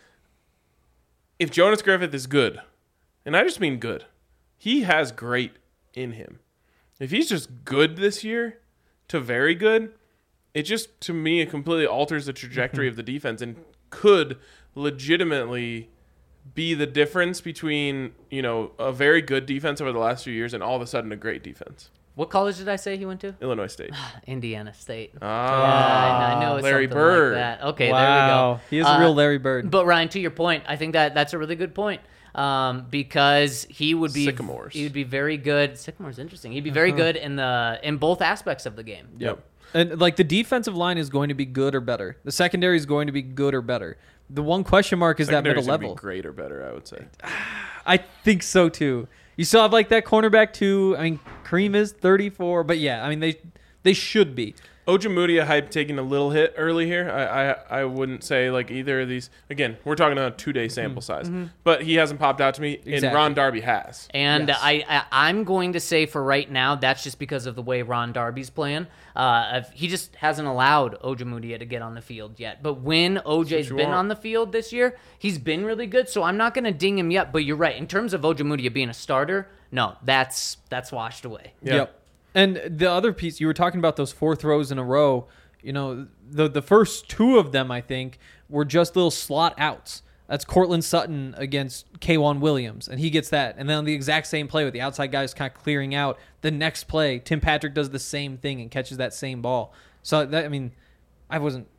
[SPEAKER 1] if Jonas Griffith is good, and I just mean good, he has great in him. If he's just good this year to very good, it just, to me, it completely alters the trajectory of the defense and could legitimately be the difference between, a very good defense over the last few years and all of a sudden a great defense.
[SPEAKER 2] What college did I say he went to?
[SPEAKER 1] Illinois State.
[SPEAKER 2] Indiana State.
[SPEAKER 1] Ah,
[SPEAKER 2] I know it's
[SPEAKER 1] Larry
[SPEAKER 2] something
[SPEAKER 1] Bird.
[SPEAKER 2] like that. Okay,
[SPEAKER 4] Wow.
[SPEAKER 2] there we go.
[SPEAKER 4] He is a real Larry Bird.
[SPEAKER 2] But Ryan, to your point, I think that's a really good point. Because he would be
[SPEAKER 1] Sycamores.
[SPEAKER 2] He would be very good. Sycamore's interesting. He'd be very good in both aspects of the game.
[SPEAKER 1] Yep.
[SPEAKER 4] And like the defensive line is going to be good or better. The secondary is going to be good or better. The one question mark is that middle
[SPEAKER 1] Secondary's gonna be
[SPEAKER 4] level.
[SPEAKER 1] great or better, I would say.
[SPEAKER 4] I think so too. You still have like that cornerback too. I mean, Kareem is 34, but yeah, I mean they should be.
[SPEAKER 1] Ojemudia hype taking a little hit early here. I wouldn't say like either of these. Again, we're talking about a 2-day sample size, but he hasn't popped out to me.
[SPEAKER 4] Exactly.
[SPEAKER 1] And Ron Darby has.
[SPEAKER 2] And
[SPEAKER 4] Yes.
[SPEAKER 2] I'm going to say for right now, that's just because of the way Ron Darby's playing. He just hasn't allowed Ojemudia to get on the field yet. But when OJ's
[SPEAKER 1] you
[SPEAKER 2] been
[SPEAKER 1] want.
[SPEAKER 2] on the field this year, he's been really good. So I'm not going to ding him yet. But you're right. In terms of Ojemudia being a starter, no, that's washed away.
[SPEAKER 1] Yeah.
[SPEAKER 4] Yep. And the other piece, you were talking about those 4 throws in a row. The first 2 of them, I think, were just little slot outs. That's Cortland Sutton against K'Wan Williams, and he gets that. And then on the exact same play with the outside guys kind of clearing out, the next play, Tim Patrick does the same thing and catches that same ball. So, I wasn't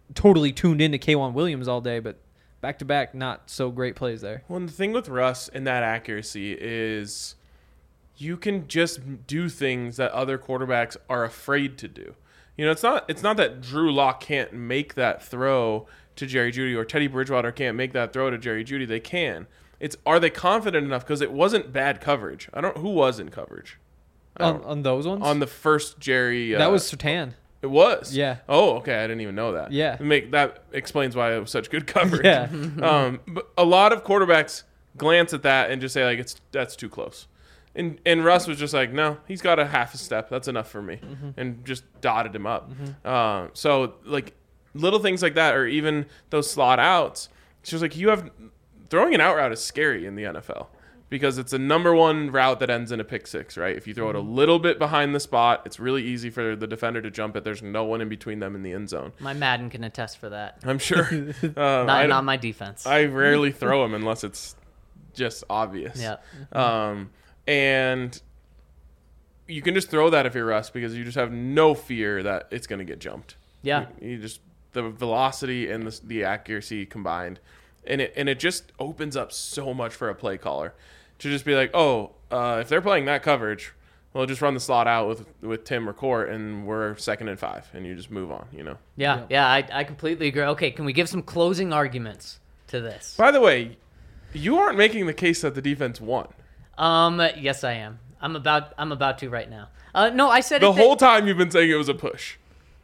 [SPEAKER 4] totally tuned into K'Wan Williams all day, but back to back, not so great plays there.
[SPEAKER 1] Well, and the thing with Russ and that accuracy is you can just do things that other quarterbacks are afraid to do. It's not that Drew Lock can't make that throw to Jerry Jeudy or Teddy Bridgewater can't make that throw to Jerry Jeudy. They can. Are they confident enough? Because it wasn't bad coverage. Who was in coverage
[SPEAKER 4] On those ones?
[SPEAKER 1] on the first Jerry.
[SPEAKER 4] That was Surtain.
[SPEAKER 1] It was.
[SPEAKER 4] Yeah.
[SPEAKER 1] Oh, okay. I didn't even know that.
[SPEAKER 4] Yeah.
[SPEAKER 1] That explains why it was such good coverage.
[SPEAKER 4] Yeah.
[SPEAKER 1] But a lot of quarterbacks glance at that and just say like that's too close. And Russ was just like, no, he's got a half a step. That's enough for me, and just dotted him up. So like little things like that, or even those slot outs. It's just like throwing an out route is scary in the NFL because it's a number one route that ends in a pick six, right? If you throw it a little bit behind the spot, it's really easy for the defender to jump it. There's no one in between them in the end zone.
[SPEAKER 2] My Madden can attest for that.
[SPEAKER 1] I'm sure.
[SPEAKER 2] Not my defense.
[SPEAKER 1] I rarely throw them unless it's just obvious.
[SPEAKER 2] Yeah.
[SPEAKER 1] And you can just throw that if you're Russ because you just have no fear that it's going to get jumped.
[SPEAKER 2] Yeah.
[SPEAKER 1] You just the velocity and the accuracy combined, and it just opens up so much for a play caller to just be like, if they're playing that coverage, well, just run the slot out with Tim or Court, and we're 2nd and 5, and you just move on.
[SPEAKER 2] Yeah. I completely agree. Okay, can we give some closing arguments to this?
[SPEAKER 1] By the way, you aren't making the case that the defense won.
[SPEAKER 2] Yes, I am. I'm about to right now. No, I said
[SPEAKER 1] the whole time you've been saying it was a push.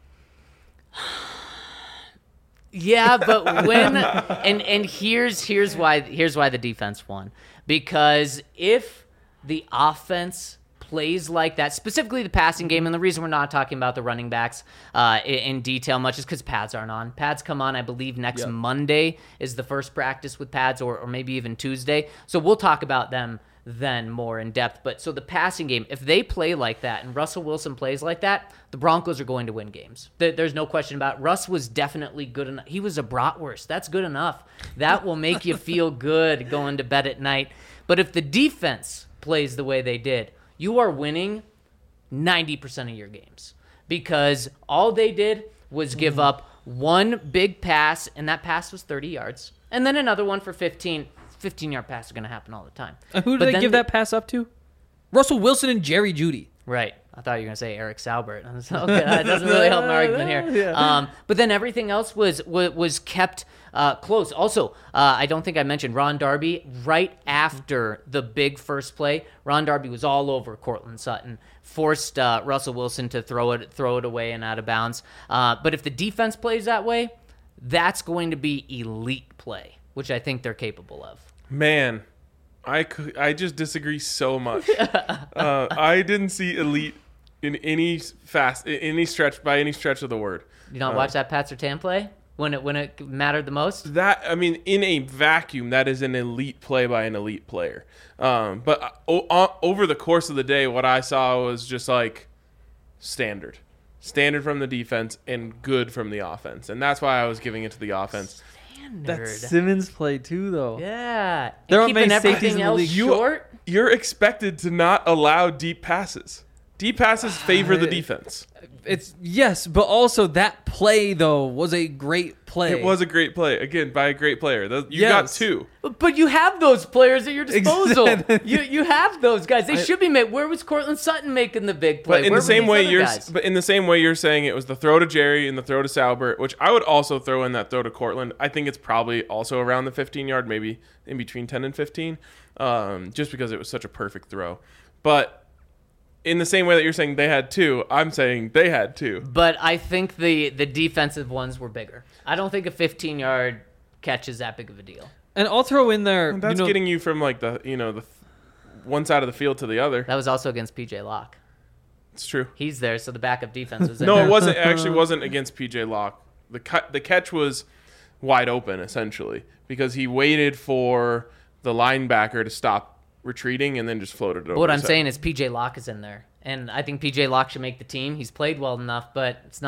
[SPEAKER 2] Yeah, but when and here's why the defense won. Because if the offense plays like that, specifically the passing game, and the reason we're not talking about the running backs in detail much is because pads aren't on. Pads come on, I believe, next Monday is the first practice with pads, or maybe even Tuesday. So we'll talk about them then more in depth. But so the passing game, if they play like that and Russell Wilson plays like that, the Broncos are going to win games. There's no question about it. Russ was definitely good enough. He was a bratwurst. That's good enough. That will make you feel good going to bed at night. But if the defense plays the way they did, you are winning 90% of your games because all they did was give up one big pass, and that pass was 30 yards, and then another one for 15. 15-yard pass is going to happen all the time.
[SPEAKER 4] And who did they give that pass up to? Russell Wilson and Jerry Jeudy.
[SPEAKER 2] Right. I thought you were going to say Eric Saubert. Okay, that doesn't really help my argument here.
[SPEAKER 4] Yeah.
[SPEAKER 2] But then everything else was kept close. Also, I don't think I mentioned Ron Darby. Right after the big first play, Ron Darby was all over Courtland Sutton, forced Russell Wilson to throw it away and out of bounds. But if the defense plays that way, that's going to be elite play, which I think they're capable of.
[SPEAKER 1] Man, I just disagree so much. I didn't see elite in any stretch by any stretch of the word.
[SPEAKER 2] You not watch that Pat Surtain play when it mattered the most?
[SPEAKER 1] In a vacuum, that is an elite play by an elite player. But over the course of the day, what I saw was just like standard from the defense and good from the offense, and that's why I was giving it to the offense.
[SPEAKER 4] That Simmons play too, though.
[SPEAKER 2] Yeah,
[SPEAKER 4] There
[SPEAKER 2] and
[SPEAKER 4] are
[SPEAKER 2] keeping
[SPEAKER 4] many safeties
[SPEAKER 2] everything
[SPEAKER 4] in the
[SPEAKER 2] else
[SPEAKER 4] league.
[SPEAKER 2] short.
[SPEAKER 1] You're expected to not allow deep passes. Deep passes favor the defense.
[SPEAKER 4] Yes, but also that play though was a great play.
[SPEAKER 1] It was a great play, again, by a great player. You got two.
[SPEAKER 2] But you have those players at your disposal.
[SPEAKER 4] Exactly.
[SPEAKER 2] You have those guys. They should be made. Where was Courtland Sutton making the big play?
[SPEAKER 1] But in
[SPEAKER 2] Where
[SPEAKER 1] the same
[SPEAKER 2] were
[SPEAKER 1] way
[SPEAKER 2] these other guys?
[SPEAKER 1] in the same way you're saying it was the throw to Jerry and the throw to Saubert, which I would also throw in that throw to Courtland. I think it's probably also around the 15-yard, maybe in between 10 and 15, just because it was such a perfect throw. But in the same way that you're saying they had two, I'm saying they had two.
[SPEAKER 2] But I think the defensive ones were bigger. I don't think a 15-yard catch is that big of a deal.
[SPEAKER 4] And I'll throw in there.
[SPEAKER 1] That's getting you from like the one side of the field to the other.
[SPEAKER 2] That was also against P.J. Locke.
[SPEAKER 1] It's true.
[SPEAKER 2] He's there, so the backup defense was in
[SPEAKER 1] No,
[SPEAKER 2] there.
[SPEAKER 1] it wasn't. It actually wasn't against P.J. Locke. The catch was wide open essentially because he waited for the linebacker to stop retreating and then just floated it over.
[SPEAKER 2] What I'm
[SPEAKER 1] his head.
[SPEAKER 2] saying is P.J. Locke is in there, and I think P.J. Locke should make the team. He's played well enough, but it's not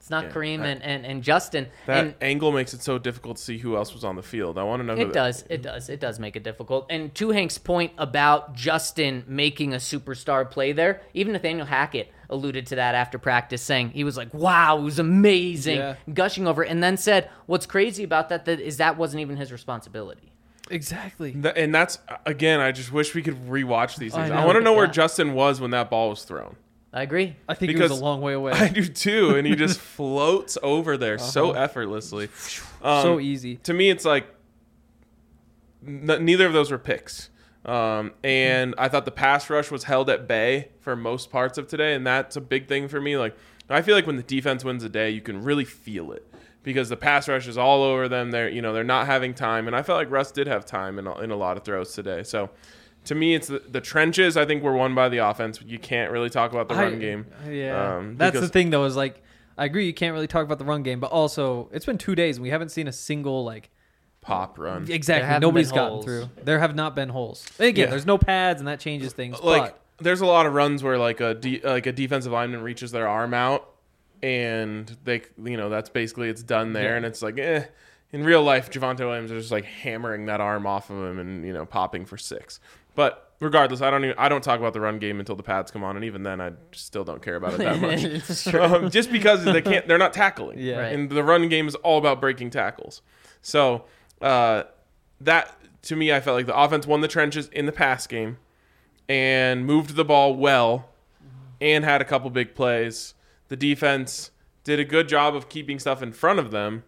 [SPEAKER 2] It's not Kareem and Justin.
[SPEAKER 1] That
[SPEAKER 2] And
[SPEAKER 1] angle makes it so difficult to see who else was on the field. I want to know who
[SPEAKER 2] it does. It does make it difficult. And to Hank's point about Justin making a superstar play there, even Nathaniel Hackett alluded to that after practice, saying he was like, wow, it was amazing, gushing over it, and then said, what's crazy about that is that wasn't even his responsibility.
[SPEAKER 4] Exactly.
[SPEAKER 1] And that's, again, I just wish we could rewatch these things.
[SPEAKER 4] I
[SPEAKER 1] I
[SPEAKER 4] know.
[SPEAKER 1] want to know where
[SPEAKER 2] Yeah.
[SPEAKER 1] Justin was when that ball was thrown.
[SPEAKER 2] I agree.
[SPEAKER 4] I think he
[SPEAKER 1] Because
[SPEAKER 4] was a long way away.
[SPEAKER 1] I do too, and he just floats over there so effortlessly.
[SPEAKER 4] So easy.
[SPEAKER 1] To me, it's like neither of those were picks. And I thought the pass rush was held at bay for most parts of today, and that's a big thing for me. Like, I feel like when the defense wins a day, you can really feel it because the pass rush is all over them. They're not having time, and I felt like Russ did have time in a lot of throws today. So, to me, it's the trenches. I think were won by the offense. You can't really talk about the run game.
[SPEAKER 4] Yeah, that's the
[SPEAKER 1] because-
[SPEAKER 4] thing though. Is like I agree. You can't really talk about the run game, but also it's been 2 days and we haven't seen a single like
[SPEAKER 1] Pop run.
[SPEAKER 2] There
[SPEAKER 4] exactly.
[SPEAKER 2] haven't
[SPEAKER 4] Nobody's
[SPEAKER 2] been
[SPEAKER 4] gotten
[SPEAKER 2] holes.
[SPEAKER 4] through. There have not been holes. And again,
[SPEAKER 1] Yeah.
[SPEAKER 4] there's no pads and that changes things.
[SPEAKER 1] Like,
[SPEAKER 4] but
[SPEAKER 1] there's a lot of runs where like a defensive lineman reaches their arm out, and that's basically it's done there, and it's like In real life, Javonte Williams is just like hammering that arm off of him and popping for 6. But regardless, I don't talk about the run game until the pads come on, and even then, I still don't care about it that much.
[SPEAKER 2] It's true.
[SPEAKER 1] Just because they're not tackling.
[SPEAKER 4] Yeah.
[SPEAKER 2] Right.
[SPEAKER 1] And the run game is all about breaking tackles. So that to me, I felt like the offense won the trenches in the pass game and moved the ball well and had a couple big plays. The defense did a good job of keeping stuff in front of them,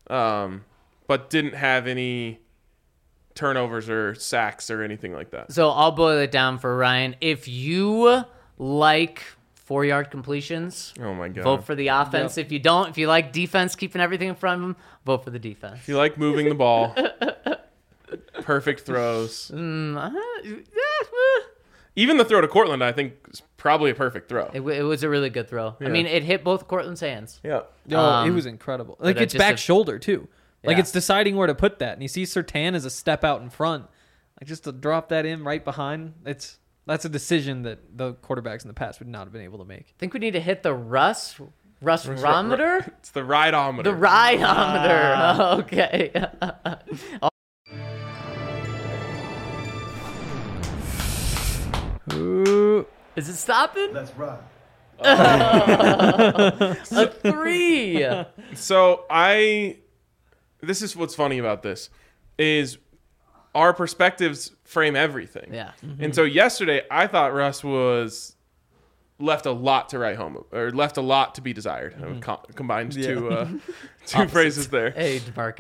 [SPEAKER 1] but didn't have any turnovers or sacks or anything like that.
[SPEAKER 2] So I'll boil it down for Ryan. If you like 4-yard completions,
[SPEAKER 1] Oh my god!
[SPEAKER 2] vote for the offense. If you don't, if you like defense, keeping everything in front of them, vote for the defense.
[SPEAKER 1] If you like moving the ball, perfect throws. Even the throw to Cortland, I think, is probably a perfect throw.
[SPEAKER 2] It was a really good throw. I mean, it hit both Cortland's hands.
[SPEAKER 1] Yeah.
[SPEAKER 4] it was incredible. Like
[SPEAKER 2] but
[SPEAKER 4] it's
[SPEAKER 2] just
[SPEAKER 4] back
[SPEAKER 2] a-
[SPEAKER 4] shoulder too. Like
[SPEAKER 2] Yeah.
[SPEAKER 4] it's deciding where to put that. And you see Surtain as a step out in front. Like just to drop that in right behind. That's a decision that the quarterbacks in the past would not have been able to make.
[SPEAKER 2] I think we need to hit the Russ-rometer?
[SPEAKER 1] It's the rideometer.
[SPEAKER 2] The rideometer. Okay.
[SPEAKER 4] Ooh.
[SPEAKER 2] Is it stopping?
[SPEAKER 5] Let's ride.
[SPEAKER 2] A 3.
[SPEAKER 1] So this is what's funny about this is our perspectives frame everything.
[SPEAKER 2] Yeah.
[SPEAKER 1] And so yesterday I thought Russ was left a lot to write home or left a lot to be desired. Combined two phrases there.
[SPEAKER 2] Hey,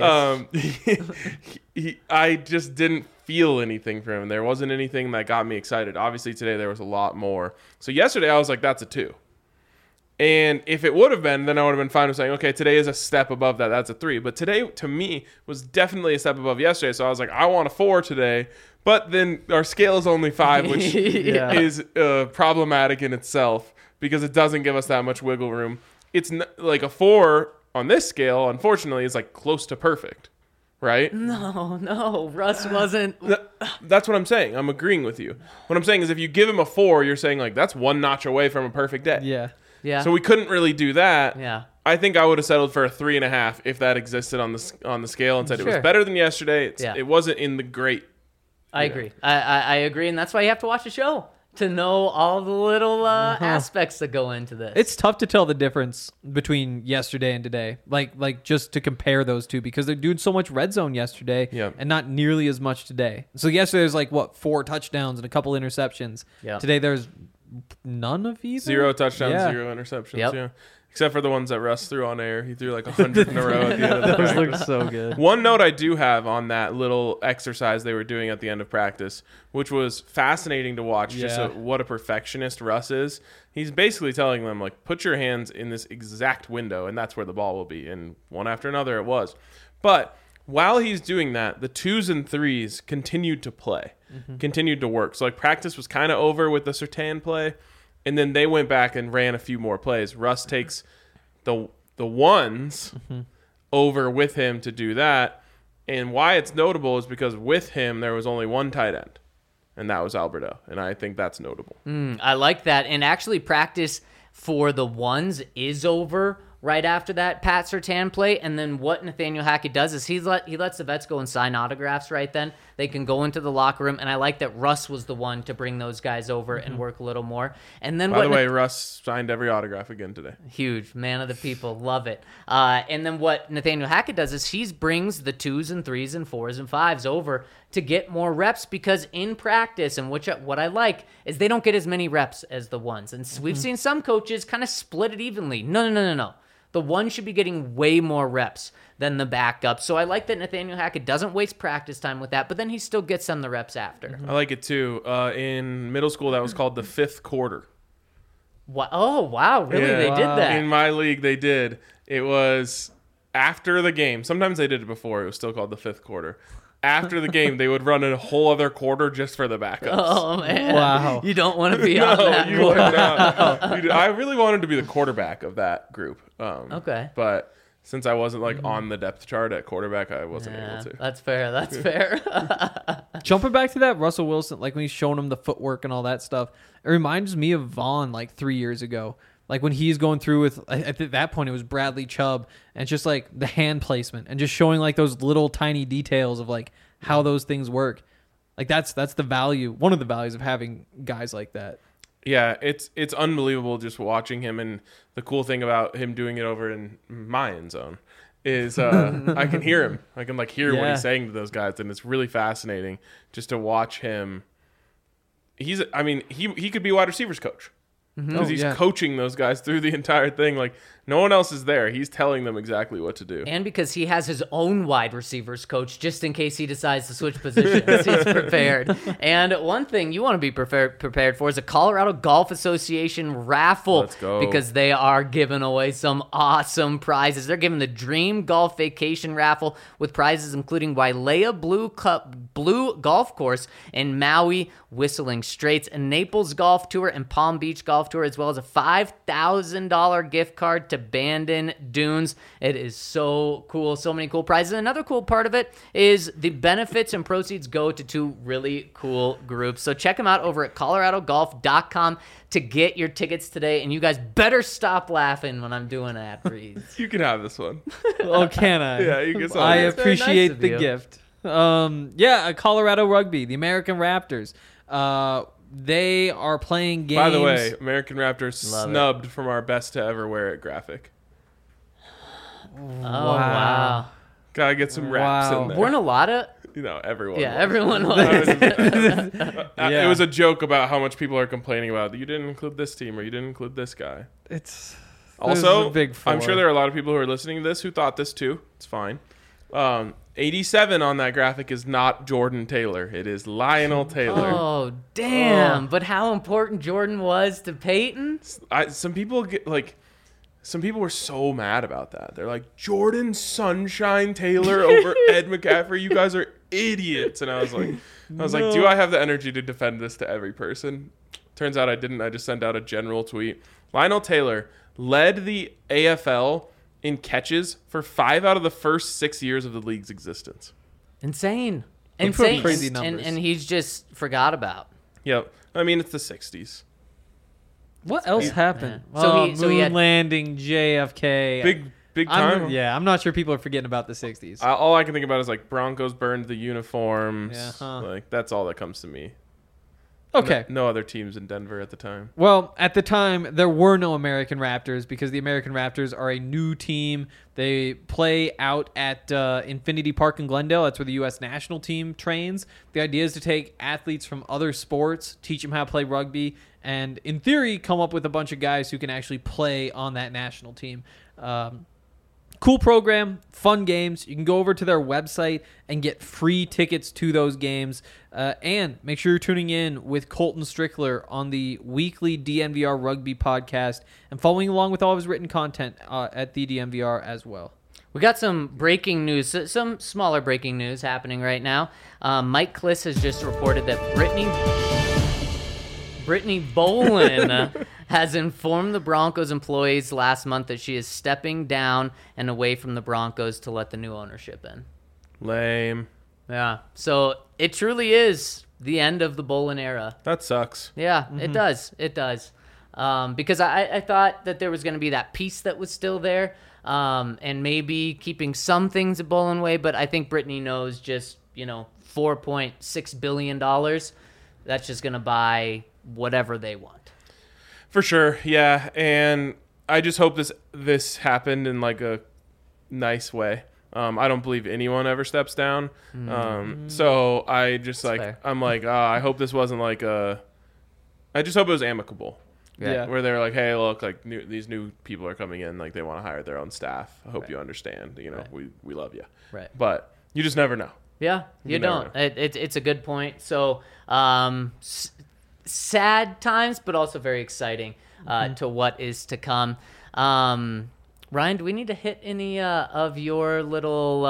[SPEAKER 2] DeMarcus.
[SPEAKER 1] I just didn't feel anything from him. There wasn't anything that got me excited. Obviously today there was a lot more. So yesterday I was like, that's a 2. And if it would have been, then I would have been fine with saying, okay, today is a step above that. That's a 3. But today, to me, was definitely a step above yesterday. So I was like, I want a 4 today. But then our scale is only 5, which
[SPEAKER 4] Yeah.
[SPEAKER 1] is problematic in itself because it doesn't give us that much wiggle room. It's like a 4 on this scale, unfortunately, is like close to perfect, right?
[SPEAKER 2] No, Russ wasn't.
[SPEAKER 1] That's what I'm saying. I'm agreeing with you. What I'm saying is if you give him a 4, you're saying like that's one notch away from a perfect day.
[SPEAKER 4] Yeah.
[SPEAKER 2] Yeah.
[SPEAKER 1] So we couldn't really do that.
[SPEAKER 2] Yeah.
[SPEAKER 1] I think I would have settled for a 3.5 if that existed on the scale and said it was
[SPEAKER 2] Sure.
[SPEAKER 1] better than yesterday.
[SPEAKER 2] Yeah.
[SPEAKER 1] It wasn't in the great.
[SPEAKER 2] I agree. I agree, and that's why you have to watch the show to know all the little aspects that go into this.
[SPEAKER 4] It's tough to tell the difference between yesterday and today. Like just to compare those two because they're doing so much red zone yesterday
[SPEAKER 1] Yeah.
[SPEAKER 4] and not nearly as much today. So yesterday there's like 4 touchdowns and a couple interceptions.
[SPEAKER 2] Yeah.
[SPEAKER 4] Today there's none of either.
[SPEAKER 1] 0 touchdowns,
[SPEAKER 4] Yeah.
[SPEAKER 1] 0 interceptions.
[SPEAKER 2] Yep.
[SPEAKER 1] Yeah. Except for the ones that Russ threw on air. He threw like 100 in a row at the end of the
[SPEAKER 4] Those
[SPEAKER 1] practice.
[SPEAKER 4] look so good.
[SPEAKER 1] One note I do have on that little exercise they were doing at the end of practice, which was fascinating to watch,
[SPEAKER 4] Yeah.
[SPEAKER 1] what a perfectionist Russ is. He's basically telling them, like, put your hands in this exact window, and that's where the ball will be. And one after another it was. But while he's doing that, the 2s and 3s continued to play, continued to work. So, like, practice was kind of over with the Surtain play, and then they went back and ran a few more plays. Russ takes the 1s over with him to do that. And why it's notable is because with him, there was only one tight end, and that was Alberto. And I think that's notable.
[SPEAKER 2] I like that. And actually, practice for the 1s is over, Right after that, Pat Surtain play, and then what Nathaniel Hackett does is he lets the vets go and sign autographs right then. They can go into the locker room, and I like that Russ was the one to bring those guys over and work a little more. And then
[SPEAKER 1] By the way, Russ signed every autograph again today.
[SPEAKER 2] huge man of the people, love it. And then what Nathaniel Hackett does is he brings the 2s and 3s and 4s and 5s over to get more reps, because in practice, and what I like is they don't get as many reps as the 1s. And we've seen some coaches kind of split it evenly. No. The 1 should be getting way more reps than the backup. So I like that Nathaniel Hackett doesn't waste practice time with that, but then he still gets them the reps after.
[SPEAKER 1] I like it too. In middle school, that was called the 5th quarter.
[SPEAKER 2] What? Oh, wow. Really?
[SPEAKER 1] Yeah.
[SPEAKER 2] They did that?
[SPEAKER 1] In my league, they did. It was after the game. Sometimes they did it before. It was still called the 5th quarter. After the game, they would run a whole other quarter just for the backups.
[SPEAKER 2] Oh, man.
[SPEAKER 4] Wow.
[SPEAKER 2] You don't want to be on that.
[SPEAKER 1] you would not. I really wanted to be the quarterback of that group.
[SPEAKER 2] Okay.
[SPEAKER 1] But since I wasn't on the depth chart at quarterback, I wasn't able to.
[SPEAKER 2] That's fair. That's fair.
[SPEAKER 4] Jumping back to that Russell Wilson, like when he's showing him the footwork and all that stuff, it reminds me of Vaughn 3 years ago. Like when he's going through with, at that point it was Bradley Chubb, and it's just the hand placement and just showing those little tiny details of how those things work. That's the value, one of the values of having guys like that.
[SPEAKER 1] Yeah, it's unbelievable just watching him, and the cool thing about him doing it over in my end zone is I can hear him. I can hear what he's saying to those guys, and it's really fascinating just to watch him. He could be wide receivers coach. Because he's coaching those guys through the entire thing. No one else is there. He's telling them exactly what to do.
[SPEAKER 2] And because he has his own wide receivers coach, just in case he decides to switch positions, he's prepared. And one thing you want to be prepared for is a Colorado Golf Association raffle.
[SPEAKER 1] Let's go.
[SPEAKER 2] Because they are giving away some awesome prizes. They're giving the Dream Golf Vacation raffle with prizes including Wailea Blue Golf Course in Maui, Whistling Straits, a Naples Golf Tour, and Palm Beach Golf Tour, as well as a $5,000 gift card to Bandon Dunes. It is so cool. So many cool prizes. Another cool part of it is the benefits and proceeds go to 2 really cool groups. So check them out over at coloradogolf.com to get your tickets today. And you guys better stop laughing when I'm doing ad reads.
[SPEAKER 1] You can have this one.
[SPEAKER 4] Oh, can I?
[SPEAKER 1] Yeah, you can.
[SPEAKER 4] I
[SPEAKER 2] That's very nice
[SPEAKER 4] appreciate
[SPEAKER 2] of
[SPEAKER 4] the
[SPEAKER 2] you.
[SPEAKER 4] gift. Colorado Rugby, the American Raptors. They are playing games.
[SPEAKER 1] By the way, American Raptors
[SPEAKER 2] Love
[SPEAKER 1] snubbed from our best to ever wear it graphic.
[SPEAKER 2] Oh, wow.
[SPEAKER 1] Gotta get some raps
[SPEAKER 4] Wow.
[SPEAKER 1] in there.
[SPEAKER 2] Weren't a lot of...
[SPEAKER 1] Everyone.
[SPEAKER 2] Yeah,
[SPEAKER 1] was.
[SPEAKER 2] everyone was.
[SPEAKER 1] It was a joke about how much people are complaining about you didn't include this team or you didn't include this guy.
[SPEAKER 4] It's
[SPEAKER 1] Also,
[SPEAKER 4] a big four.
[SPEAKER 1] I'm sure there are a lot of people who are listening to this who thought this too. It's fine. 87 on that graphic is not Jordan Taylor. It is Lionel Taylor.
[SPEAKER 2] Oh, damn. But how important Jordan was to Peyton?
[SPEAKER 1] Some people were so mad about that. They're like, Jordan Sunshine Taylor over Ed McCaffrey. You guys are idiots. And I was like, do I have the energy to defend this to every person? Turns out I didn't. I just sent out a general tweet. Lionel Taylor led the AFL in catches for 5 out of the first 6 years of the league's existence.
[SPEAKER 2] Insane.
[SPEAKER 4] Those are
[SPEAKER 2] Insane.
[SPEAKER 4] crazy numbers.
[SPEAKER 2] And he's just forgot about.
[SPEAKER 1] Yep. I mean, it's the 60s.
[SPEAKER 4] What else happened?
[SPEAKER 2] Yeah. So he
[SPEAKER 4] moon
[SPEAKER 2] had-
[SPEAKER 4] landing, JFK.
[SPEAKER 1] Big time.
[SPEAKER 4] I'm not sure people are forgetting about the 60s.
[SPEAKER 1] All I can think about is Broncos burned the uniforms.
[SPEAKER 4] Yeah, huh.
[SPEAKER 1] That's all that comes to me.
[SPEAKER 4] Okay.
[SPEAKER 1] No other teams in Denver at the time.
[SPEAKER 4] Well, at the time, there were no American Raptors because the American Raptors are a new team. They play out at Infinity Park in Glendale. That's where the U.S. national team trains. The idea is to take athletes from other sports, teach them how to play rugby, and in theory, come up with a bunch of guys who can actually play on that national team. Cool program, fun games. You can go over to their website and get free tickets to those games. And make sure you're tuning in with Colton Strickler on the weekly DNVR Rugby podcast and following along with all of his written content at the DNVR as well.
[SPEAKER 2] We got some breaking news, some smaller breaking news happening right now. Mike Kliss has just reported that Brittany Bolin has informed the Broncos employees last month that she is stepping down and away from the Broncos to let the new ownership in.
[SPEAKER 1] Lame.
[SPEAKER 2] Yeah, so it truly is the end of the Bolin era.
[SPEAKER 1] That sucks.
[SPEAKER 2] Yeah, it does. It does. because I thought that there was going to be that piece that was still there, and maybe keeping some things at Bowling Way. But I think Brittany knows just, $4.6 billion. That's just going to buy whatever they want.
[SPEAKER 1] For sure, yeah. And I just hope this happened in like a nice way. I don't believe anyone ever steps down. So I just
[SPEAKER 2] fair.
[SPEAKER 1] I'm like, I hope this wasn't like I just hope it was amicable.
[SPEAKER 4] Yeah.
[SPEAKER 1] Where they're like, hey, look, like these new people are coming in, like they want to hire their own staff. I hope you understand. We love you.
[SPEAKER 2] Right.
[SPEAKER 1] But you just never know.
[SPEAKER 2] Yeah, you
[SPEAKER 1] never
[SPEAKER 2] don't. It's a good point. So sad times, but also very exciting to what is to come. Ryan, do we need to hit any of your little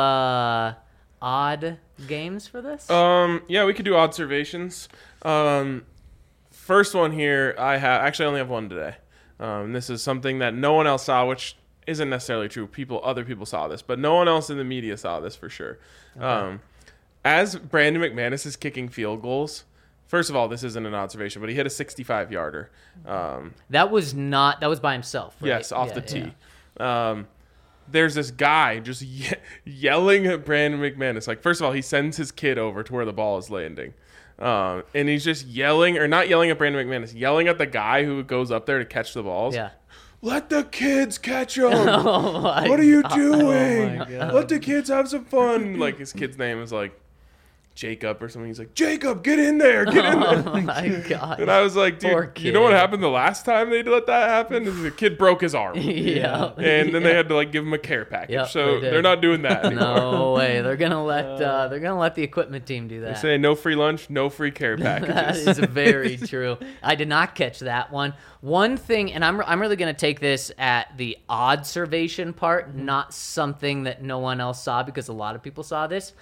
[SPEAKER 2] odd games for this?
[SPEAKER 1] Yeah, we could do observations. First one here, I only have one today. This is something that no one else saw, which isn't necessarily true. Other people saw this, but no one else in the media saw this for sure. Okay. As Brandon McManus is kicking field goals, first of all, this isn't an observation, but he hit a 65-yarder.
[SPEAKER 2] That was by himself, right?
[SPEAKER 1] Yes, off the tee. Yeah. There's this guy just yelling at Brandon McManus. Like, first of all, he sends his kid over to where the ball is landing. And he's just yelling, or not yelling at Brandon McManus, yelling at the guy who goes up there to catch the balls.
[SPEAKER 2] Yeah.
[SPEAKER 1] Let the kids catch them.
[SPEAKER 2] What
[SPEAKER 1] are you doing?
[SPEAKER 4] Oh my God.
[SPEAKER 1] Let the kids have some fun. Like, his kid's name is like Jacob or something. He's like, Jacob, get in there. Get in there.
[SPEAKER 2] Oh my God.
[SPEAKER 1] And I was like,
[SPEAKER 2] Poor
[SPEAKER 1] dude,
[SPEAKER 2] kid.
[SPEAKER 1] you know what happened the last time they let that happen? Is the kid broke his arm.
[SPEAKER 2] Yeah.
[SPEAKER 1] And then they had to like give him a care package.
[SPEAKER 2] Yep,
[SPEAKER 1] So
[SPEAKER 2] they did.
[SPEAKER 1] they're not doing that anymore.
[SPEAKER 2] No way. They're gonna let the equipment team do
[SPEAKER 1] They
[SPEAKER 2] that.
[SPEAKER 1] say no free lunch, no free care
[SPEAKER 2] That
[SPEAKER 1] packages.
[SPEAKER 2] is very true. I did not catch that one. One thing, and I'm really going to take this at the observation part, not something that no one else saw, because a lot of people saw this.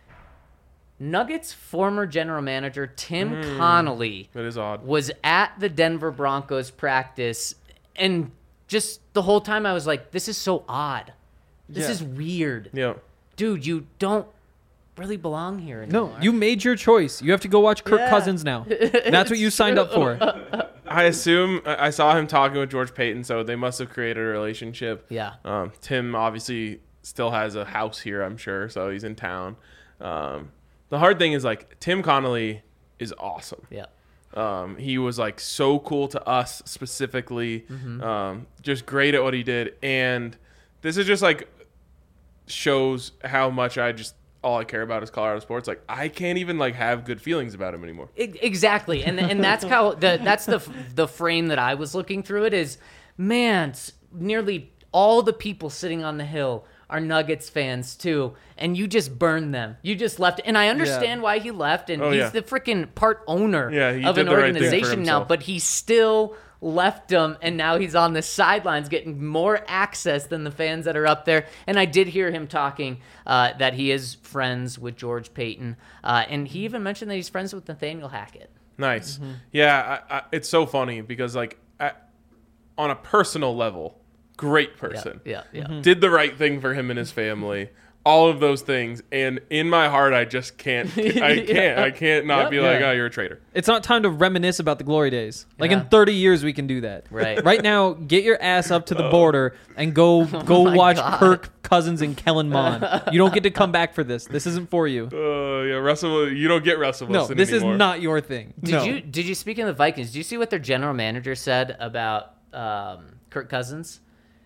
[SPEAKER 2] Nuggets former general manager Tim Connolly
[SPEAKER 1] That is odd.
[SPEAKER 2] was at the Denver Broncos practice, and just the whole time I was like, this is so odd. This is weird.
[SPEAKER 1] Yeah.
[SPEAKER 2] Dude, you don't really belong here anymore.
[SPEAKER 4] No, you made your choice. You have to go watch Kirk
[SPEAKER 2] Yeah.
[SPEAKER 4] Cousins now. That's what you signed up for.
[SPEAKER 1] I assume I saw him talking with George Payton, so they must have created a relationship.
[SPEAKER 2] Yeah.
[SPEAKER 1] Tim obviously still has a house here, I'm sure, so he's in town. The hard thing is, like, Tim Connolly is awesome.
[SPEAKER 2] Yeah.
[SPEAKER 1] He was like so cool to us specifically, just great at what he did. And this is just like shows how much all I care about is Colorado sports. Like, I can't even like have good feelings about him anymore.
[SPEAKER 2] Exactly, and that's how that's the frame that I was looking through it is, man, nearly all the people sitting on the Hill are Nuggets fans too, and you just burned them. You just left, and I understand why he left, and he's the freaking part owner
[SPEAKER 1] Yeah, he
[SPEAKER 2] of
[SPEAKER 1] did
[SPEAKER 2] an
[SPEAKER 1] the right thing for
[SPEAKER 2] organization now,
[SPEAKER 1] himself.
[SPEAKER 2] but he still left them, and now he's on the sidelines getting more access than the fans that are up there. And I did hear him talking that he is friends with George Payton, and he even mentioned that he's friends with Nathaniel Hackett.
[SPEAKER 1] Nice. Yeah, it's so funny because like on a personal level, great person.
[SPEAKER 2] Yeah.
[SPEAKER 1] Did the right thing for him and his family. All of those things, and in my heart, I just can't. I can't not be like, oh, you're a traitor.
[SPEAKER 4] It's not time to reminisce about the glory days. Like
[SPEAKER 2] Yeah.
[SPEAKER 4] in 30 years, we can do that.
[SPEAKER 2] Right.
[SPEAKER 4] Right now, get your ass up to the border and go
[SPEAKER 2] my
[SPEAKER 4] watch
[SPEAKER 2] God.
[SPEAKER 4] Kirk Cousins and Kellen Mond. You don't get to come back for this. This isn't for you.
[SPEAKER 1] Yeah, Russell. You don't get Russell
[SPEAKER 4] No,
[SPEAKER 1] Wilson
[SPEAKER 4] this
[SPEAKER 1] anymore.
[SPEAKER 4] is not your thing.
[SPEAKER 2] Did you speak of the Vikings? Did you see what their general manager said about Kirk Cousins?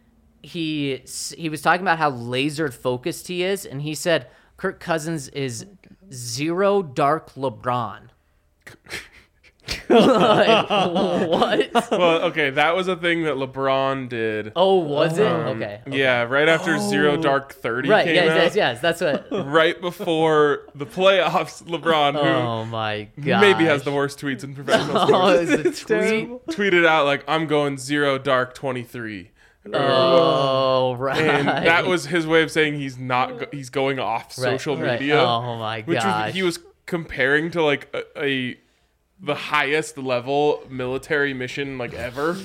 [SPEAKER 2] He was talking about how laser focused he is, and he said Kirk Cousins is zero dark LeBron. Like, what?
[SPEAKER 1] Well, okay, that was a thing that LeBron did.
[SPEAKER 2] Oh, was it? Okay.
[SPEAKER 1] Yeah, right after Zero Dark 30
[SPEAKER 2] Right.
[SPEAKER 1] came
[SPEAKER 2] Yes.
[SPEAKER 1] out.
[SPEAKER 2] That's what.
[SPEAKER 1] Right before the playoffs, LeBron, who
[SPEAKER 2] Oh my god.
[SPEAKER 1] maybe has the worst tweets in professional
[SPEAKER 2] Oh,
[SPEAKER 1] sports,
[SPEAKER 2] is it tweet?
[SPEAKER 1] tweeted out like, "I'm going Zero Dark 23."
[SPEAKER 2] Oh, right.
[SPEAKER 1] And that was his way of saying he's not. He's going off social
[SPEAKER 2] right.
[SPEAKER 1] media.
[SPEAKER 2] Oh my
[SPEAKER 1] which
[SPEAKER 2] gosh.
[SPEAKER 1] he was comparing to like the highest level military mission like ever.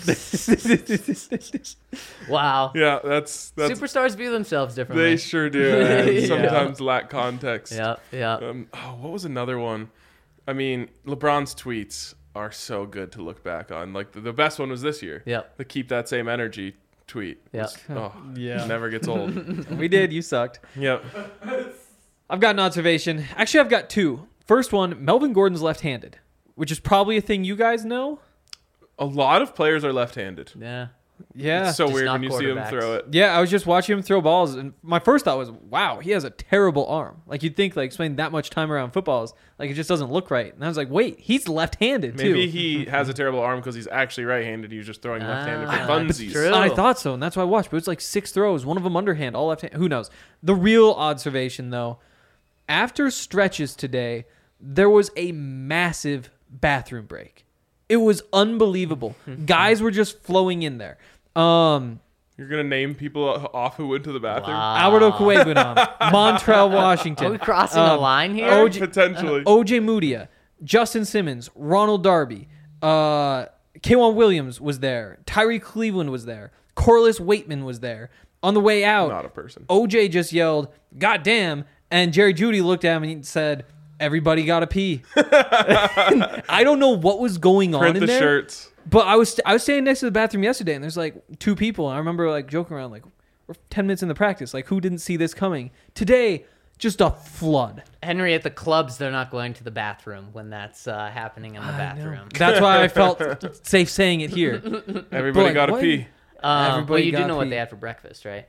[SPEAKER 2] Wow.
[SPEAKER 1] Yeah, that's
[SPEAKER 2] Superstars view themselves differently.
[SPEAKER 1] they sure do. And
[SPEAKER 2] Yeah.
[SPEAKER 1] sometimes lack context.
[SPEAKER 2] Yeah.
[SPEAKER 1] What was another one? I mean, LeBron's tweets. are so good to look back on. Like the best one was this year.
[SPEAKER 2] Yep.
[SPEAKER 1] The keep that same energy tweet.
[SPEAKER 2] Yep.
[SPEAKER 1] Oh,
[SPEAKER 4] Yeah.
[SPEAKER 1] never gets old.
[SPEAKER 4] We did. You sucked.
[SPEAKER 1] Yep.
[SPEAKER 4] I've got an observation. Actually, I've got two. First one, Melvin Gordon's left-handed, which is probably a thing you guys know.
[SPEAKER 1] A lot of players are left-handed.
[SPEAKER 2] Yeah.
[SPEAKER 4] Yeah.
[SPEAKER 1] It's so
[SPEAKER 2] Just
[SPEAKER 1] weird
[SPEAKER 2] not
[SPEAKER 1] when you see him
[SPEAKER 2] quarterbacks.
[SPEAKER 1] throw it.
[SPEAKER 4] Yeah, I was just watching him throw balls, and my first thought was, wow, he has a terrible arm. Like, you'd think, like, spending that much time around footballs, like, it just doesn't look right. And I was like, wait, he's left-handed, too.
[SPEAKER 1] Maybe he has a terrible arm because he's actually right-handed. He's just throwing left-handed for
[SPEAKER 2] that's
[SPEAKER 1] funsies.
[SPEAKER 2] true.
[SPEAKER 4] And I thought so, and that's why I watched. But it's like 6 throws, one of them underhand, all left hand. Who knows? The real observation, though, after stretches today, there was a massive bathroom break. It was unbelievable. Guys were just flowing in there.
[SPEAKER 1] You're going to name people off who went to the bathroom?
[SPEAKER 2] Wow.
[SPEAKER 4] Alberto Cueguinon, Montrell Washington.
[SPEAKER 2] Are we crossing the line here?
[SPEAKER 1] Oh, potentially.
[SPEAKER 4] OJ Mudia, Justin Simmons, Ronald Darby, K'Wan Williams was there. Tyree Cleveland was there. Corliss Waitman was there. On the way out,
[SPEAKER 1] Not a person.
[SPEAKER 4] OJ just yelled, "God damn!" And Jerry Jeudy looked at him and he said, "Everybody got to pee." I don't know what was going on
[SPEAKER 1] Print
[SPEAKER 4] in
[SPEAKER 1] the
[SPEAKER 4] there,
[SPEAKER 1] shirts.
[SPEAKER 4] but I was standing next to the bathroom yesterday, and there's like 2 people. And I remember like joking around, like, we're 10 minutes in the practice, like, who didn't see this coming? Today, just a flood.
[SPEAKER 2] Henry, at the clubs, they're not going to the bathroom when that's happening in the bathroom.
[SPEAKER 4] That's why I felt safe saying it here.
[SPEAKER 1] Everybody
[SPEAKER 4] like,
[SPEAKER 1] got to
[SPEAKER 4] what?
[SPEAKER 1] pee.
[SPEAKER 2] Well,
[SPEAKER 4] Everybody
[SPEAKER 2] you do
[SPEAKER 4] got
[SPEAKER 2] know what
[SPEAKER 4] pee.
[SPEAKER 2] they had for breakfast, right?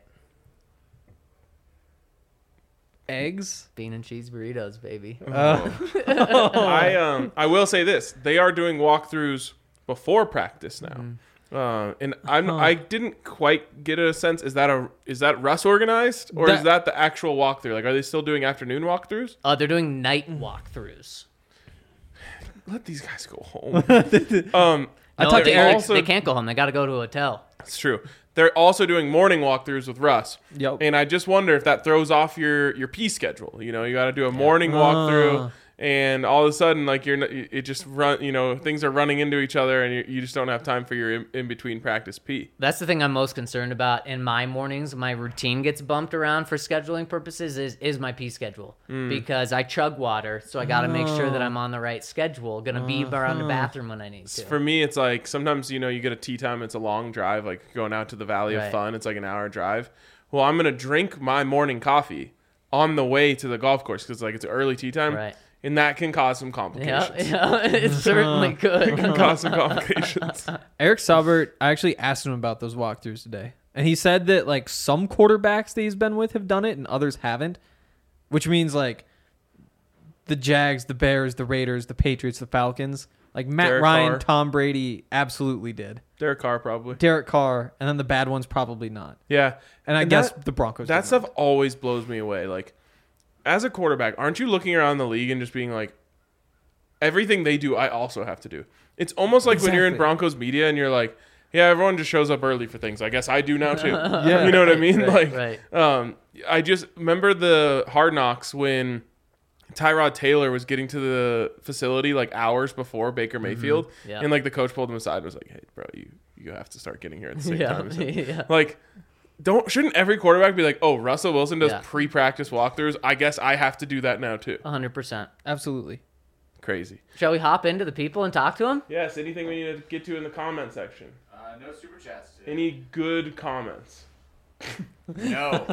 [SPEAKER 4] Eggs.
[SPEAKER 2] Bean and cheese burritos, baby.
[SPEAKER 1] I will say this: they are doing walkthroughs before practice now, and I didn't quite get a sense. Is that Russ organized, or is that the actual walkthrough? Like, are they still doing afternoon walkthroughs?
[SPEAKER 2] They're doing night walkthroughs.
[SPEAKER 1] Let these guys go home.
[SPEAKER 4] I talked to
[SPEAKER 2] they,
[SPEAKER 4] Eric.
[SPEAKER 1] also-
[SPEAKER 2] they can't go home. They got to go to a hotel.
[SPEAKER 1] That's true. They're also doing morning walkthroughs with Russ.
[SPEAKER 4] Yep.
[SPEAKER 1] And I just wonder if that throws off your P schedule. You know, you got to do a morning walkthrough, and all of a sudden, like, it just run. You know, things are running into each other, and you just don't have time for your in between practice P.
[SPEAKER 2] That's the thing I'm most concerned about in my mornings. My routine gets bumped around for scheduling purposes is my pee schedule because I chug water, so I got to make sure that I'm on the right schedule. Gonna be around the bathroom when I need to.
[SPEAKER 1] For me, it's like sometimes, you know, you get a tea time. It's a long drive, like going out to the Valley of
[SPEAKER 2] Right.
[SPEAKER 1] Fun. It's like an hour drive. Well, I'm gonna drink my morning coffee on the way to the golf course because like it's early tea time,
[SPEAKER 2] Right.
[SPEAKER 1] and that can cause some complications.
[SPEAKER 2] Yeah, it certainly could.
[SPEAKER 1] Can cause some complications.
[SPEAKER 4] Eric Saubert, I actually asked him about those walkthroughs today. And he said that, like, some quarterbacks that he's been with have done it and others haven't. Which means, like, the Jags, the Bears, the Raiders, the Patriots, the Falcons. Like, Matt
[SPEAKER 1] Derek
[SPEAKER 4] Ryan,
[SPEAKER 1] Carr.
[SPEAKER 4] Tom Brady absolutely did.
[SPEAKER 1] Derek Carr probably.
[SPEAKER 4] Derek Carr, and then the bad ones probably not.
[SPEAKER 1] Yeah.
[SPEAKER 4] And I
[SPEAKER 1] And
[SPEAKER 4] guess
[SPEAKER 1] that-
[SPEAKER 4] the Broncos
[SPEAKER 1] That
[SPEAKER 4] did
[SPEAKER 1] stuff
[SPEAKER 4] not.
[SPEAKER 1] always blows me away. Like, as a quarterback, aren't you looking around the league and just being like, everything they do, I also have to do? It's almost like when you're in
[SPEAKER 4] Exactly.
[SPEAKER 1] Broncos media and you're like, yeah, everyone just shows up early for things. I guess I do now too.
[SPEAKER 4] Yeah.
[SPEAKER 1] You know what I mean?
[SPEAKER 2] Right,
[SPEAKER 1] Like, I just remember the Hard Knocks when Tyrod Taylor was getting to the facility like hours before Baker Mayfield,
[SPEAKER 2] Yeah.
[SPEAKER 1] and like the coach pulled him aside and was like, "Hey, bro, you have to start getting here at the same time." So,
[SPEAKER 2] yeah.
[SPEAKER 1] like, shouldn't every quarterback be like, "Oh, Russell Wilson does
[SPEAKER 2] Yeah.
[SPEAKER 1] pre-practice walkthroughs. I guess I have to do that now too."
[SPEAKER 2] 100%.
[SPEAKER 4] Absolutely.
[SPEAKER 1] Crazy.
[SPEAKER 2] Shall we hop into the people and talk to them?
[SPEAKER 1] Yes. Anything we need to get to in the comment section?
[SPEAKER 5] No super chats today.
[SPEAKER 1] Any good comments?
[SPEAKER 5] No.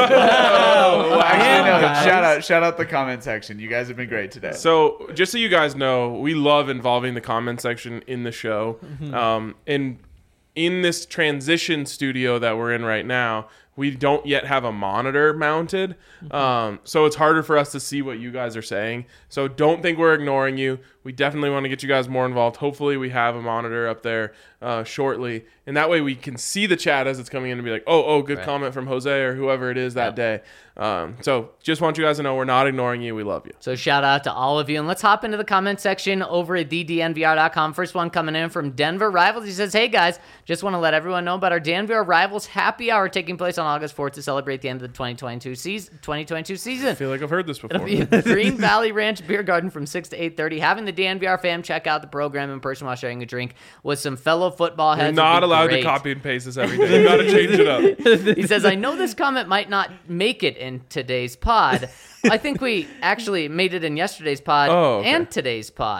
[SPEAKER 1] Oh,
[SPEAKER 5] Actually, no.
[SPEAKER 4] guys.
[SPEAKER 5] Shout out the comment section. You guys have been great today.
[SPEAKER 1] So, just so you guys know, we love involving the comment section in the show. And in this transition studio that we're in right now, we don't yet have a monitor mounted. So it's harder for us to see what you guys are saying. So don't think we're ignoring you. We definitely want to get you guys more involved. Hopefully we have a monitor up there shortly. And that way we can see the chat as it's coming in and be like, oh, good
[SPEAKER 2] Right.
[SPEAKER 1] comment from Jose or whoever it is that day. So just want you guys to know we're not ignoring you. We love you.
[SPEAKER 2] So shout out to all of you. And let's hop into the comment section over at thednvr.com. First one coming in from Denver Rivals. He says, hey guys, just want to let everyone know about our DNVR Rivals happy hour taking place on August 4th to celebrate the end of the 2022 season.
[SPEAKER 1] I feel like I've heard this before.
[SPEAKER 2] It'll be at the Green Valley Ranch Beer Garden from 6 to 8:30. Having the DNVR fam check out the program in person while sharing a drink with some fellow football
[SPEAKER 1] You're
[SPEAKER 2] heads.
[SPEAKER 1] not
[SPEAKER 2] would be
[SPEAKER 1] allowed
[SPEAKER 2] great.
[SPEAKER 1] to copy and paste this every day. You got to change it up.
[SPEAKER 2] He says, I know this comment might not make it in today's pod. I think we actually made it in yesterday's pod
[SPEAKER 1] Oh, okay.
[SPEAKER 2] and today's pod.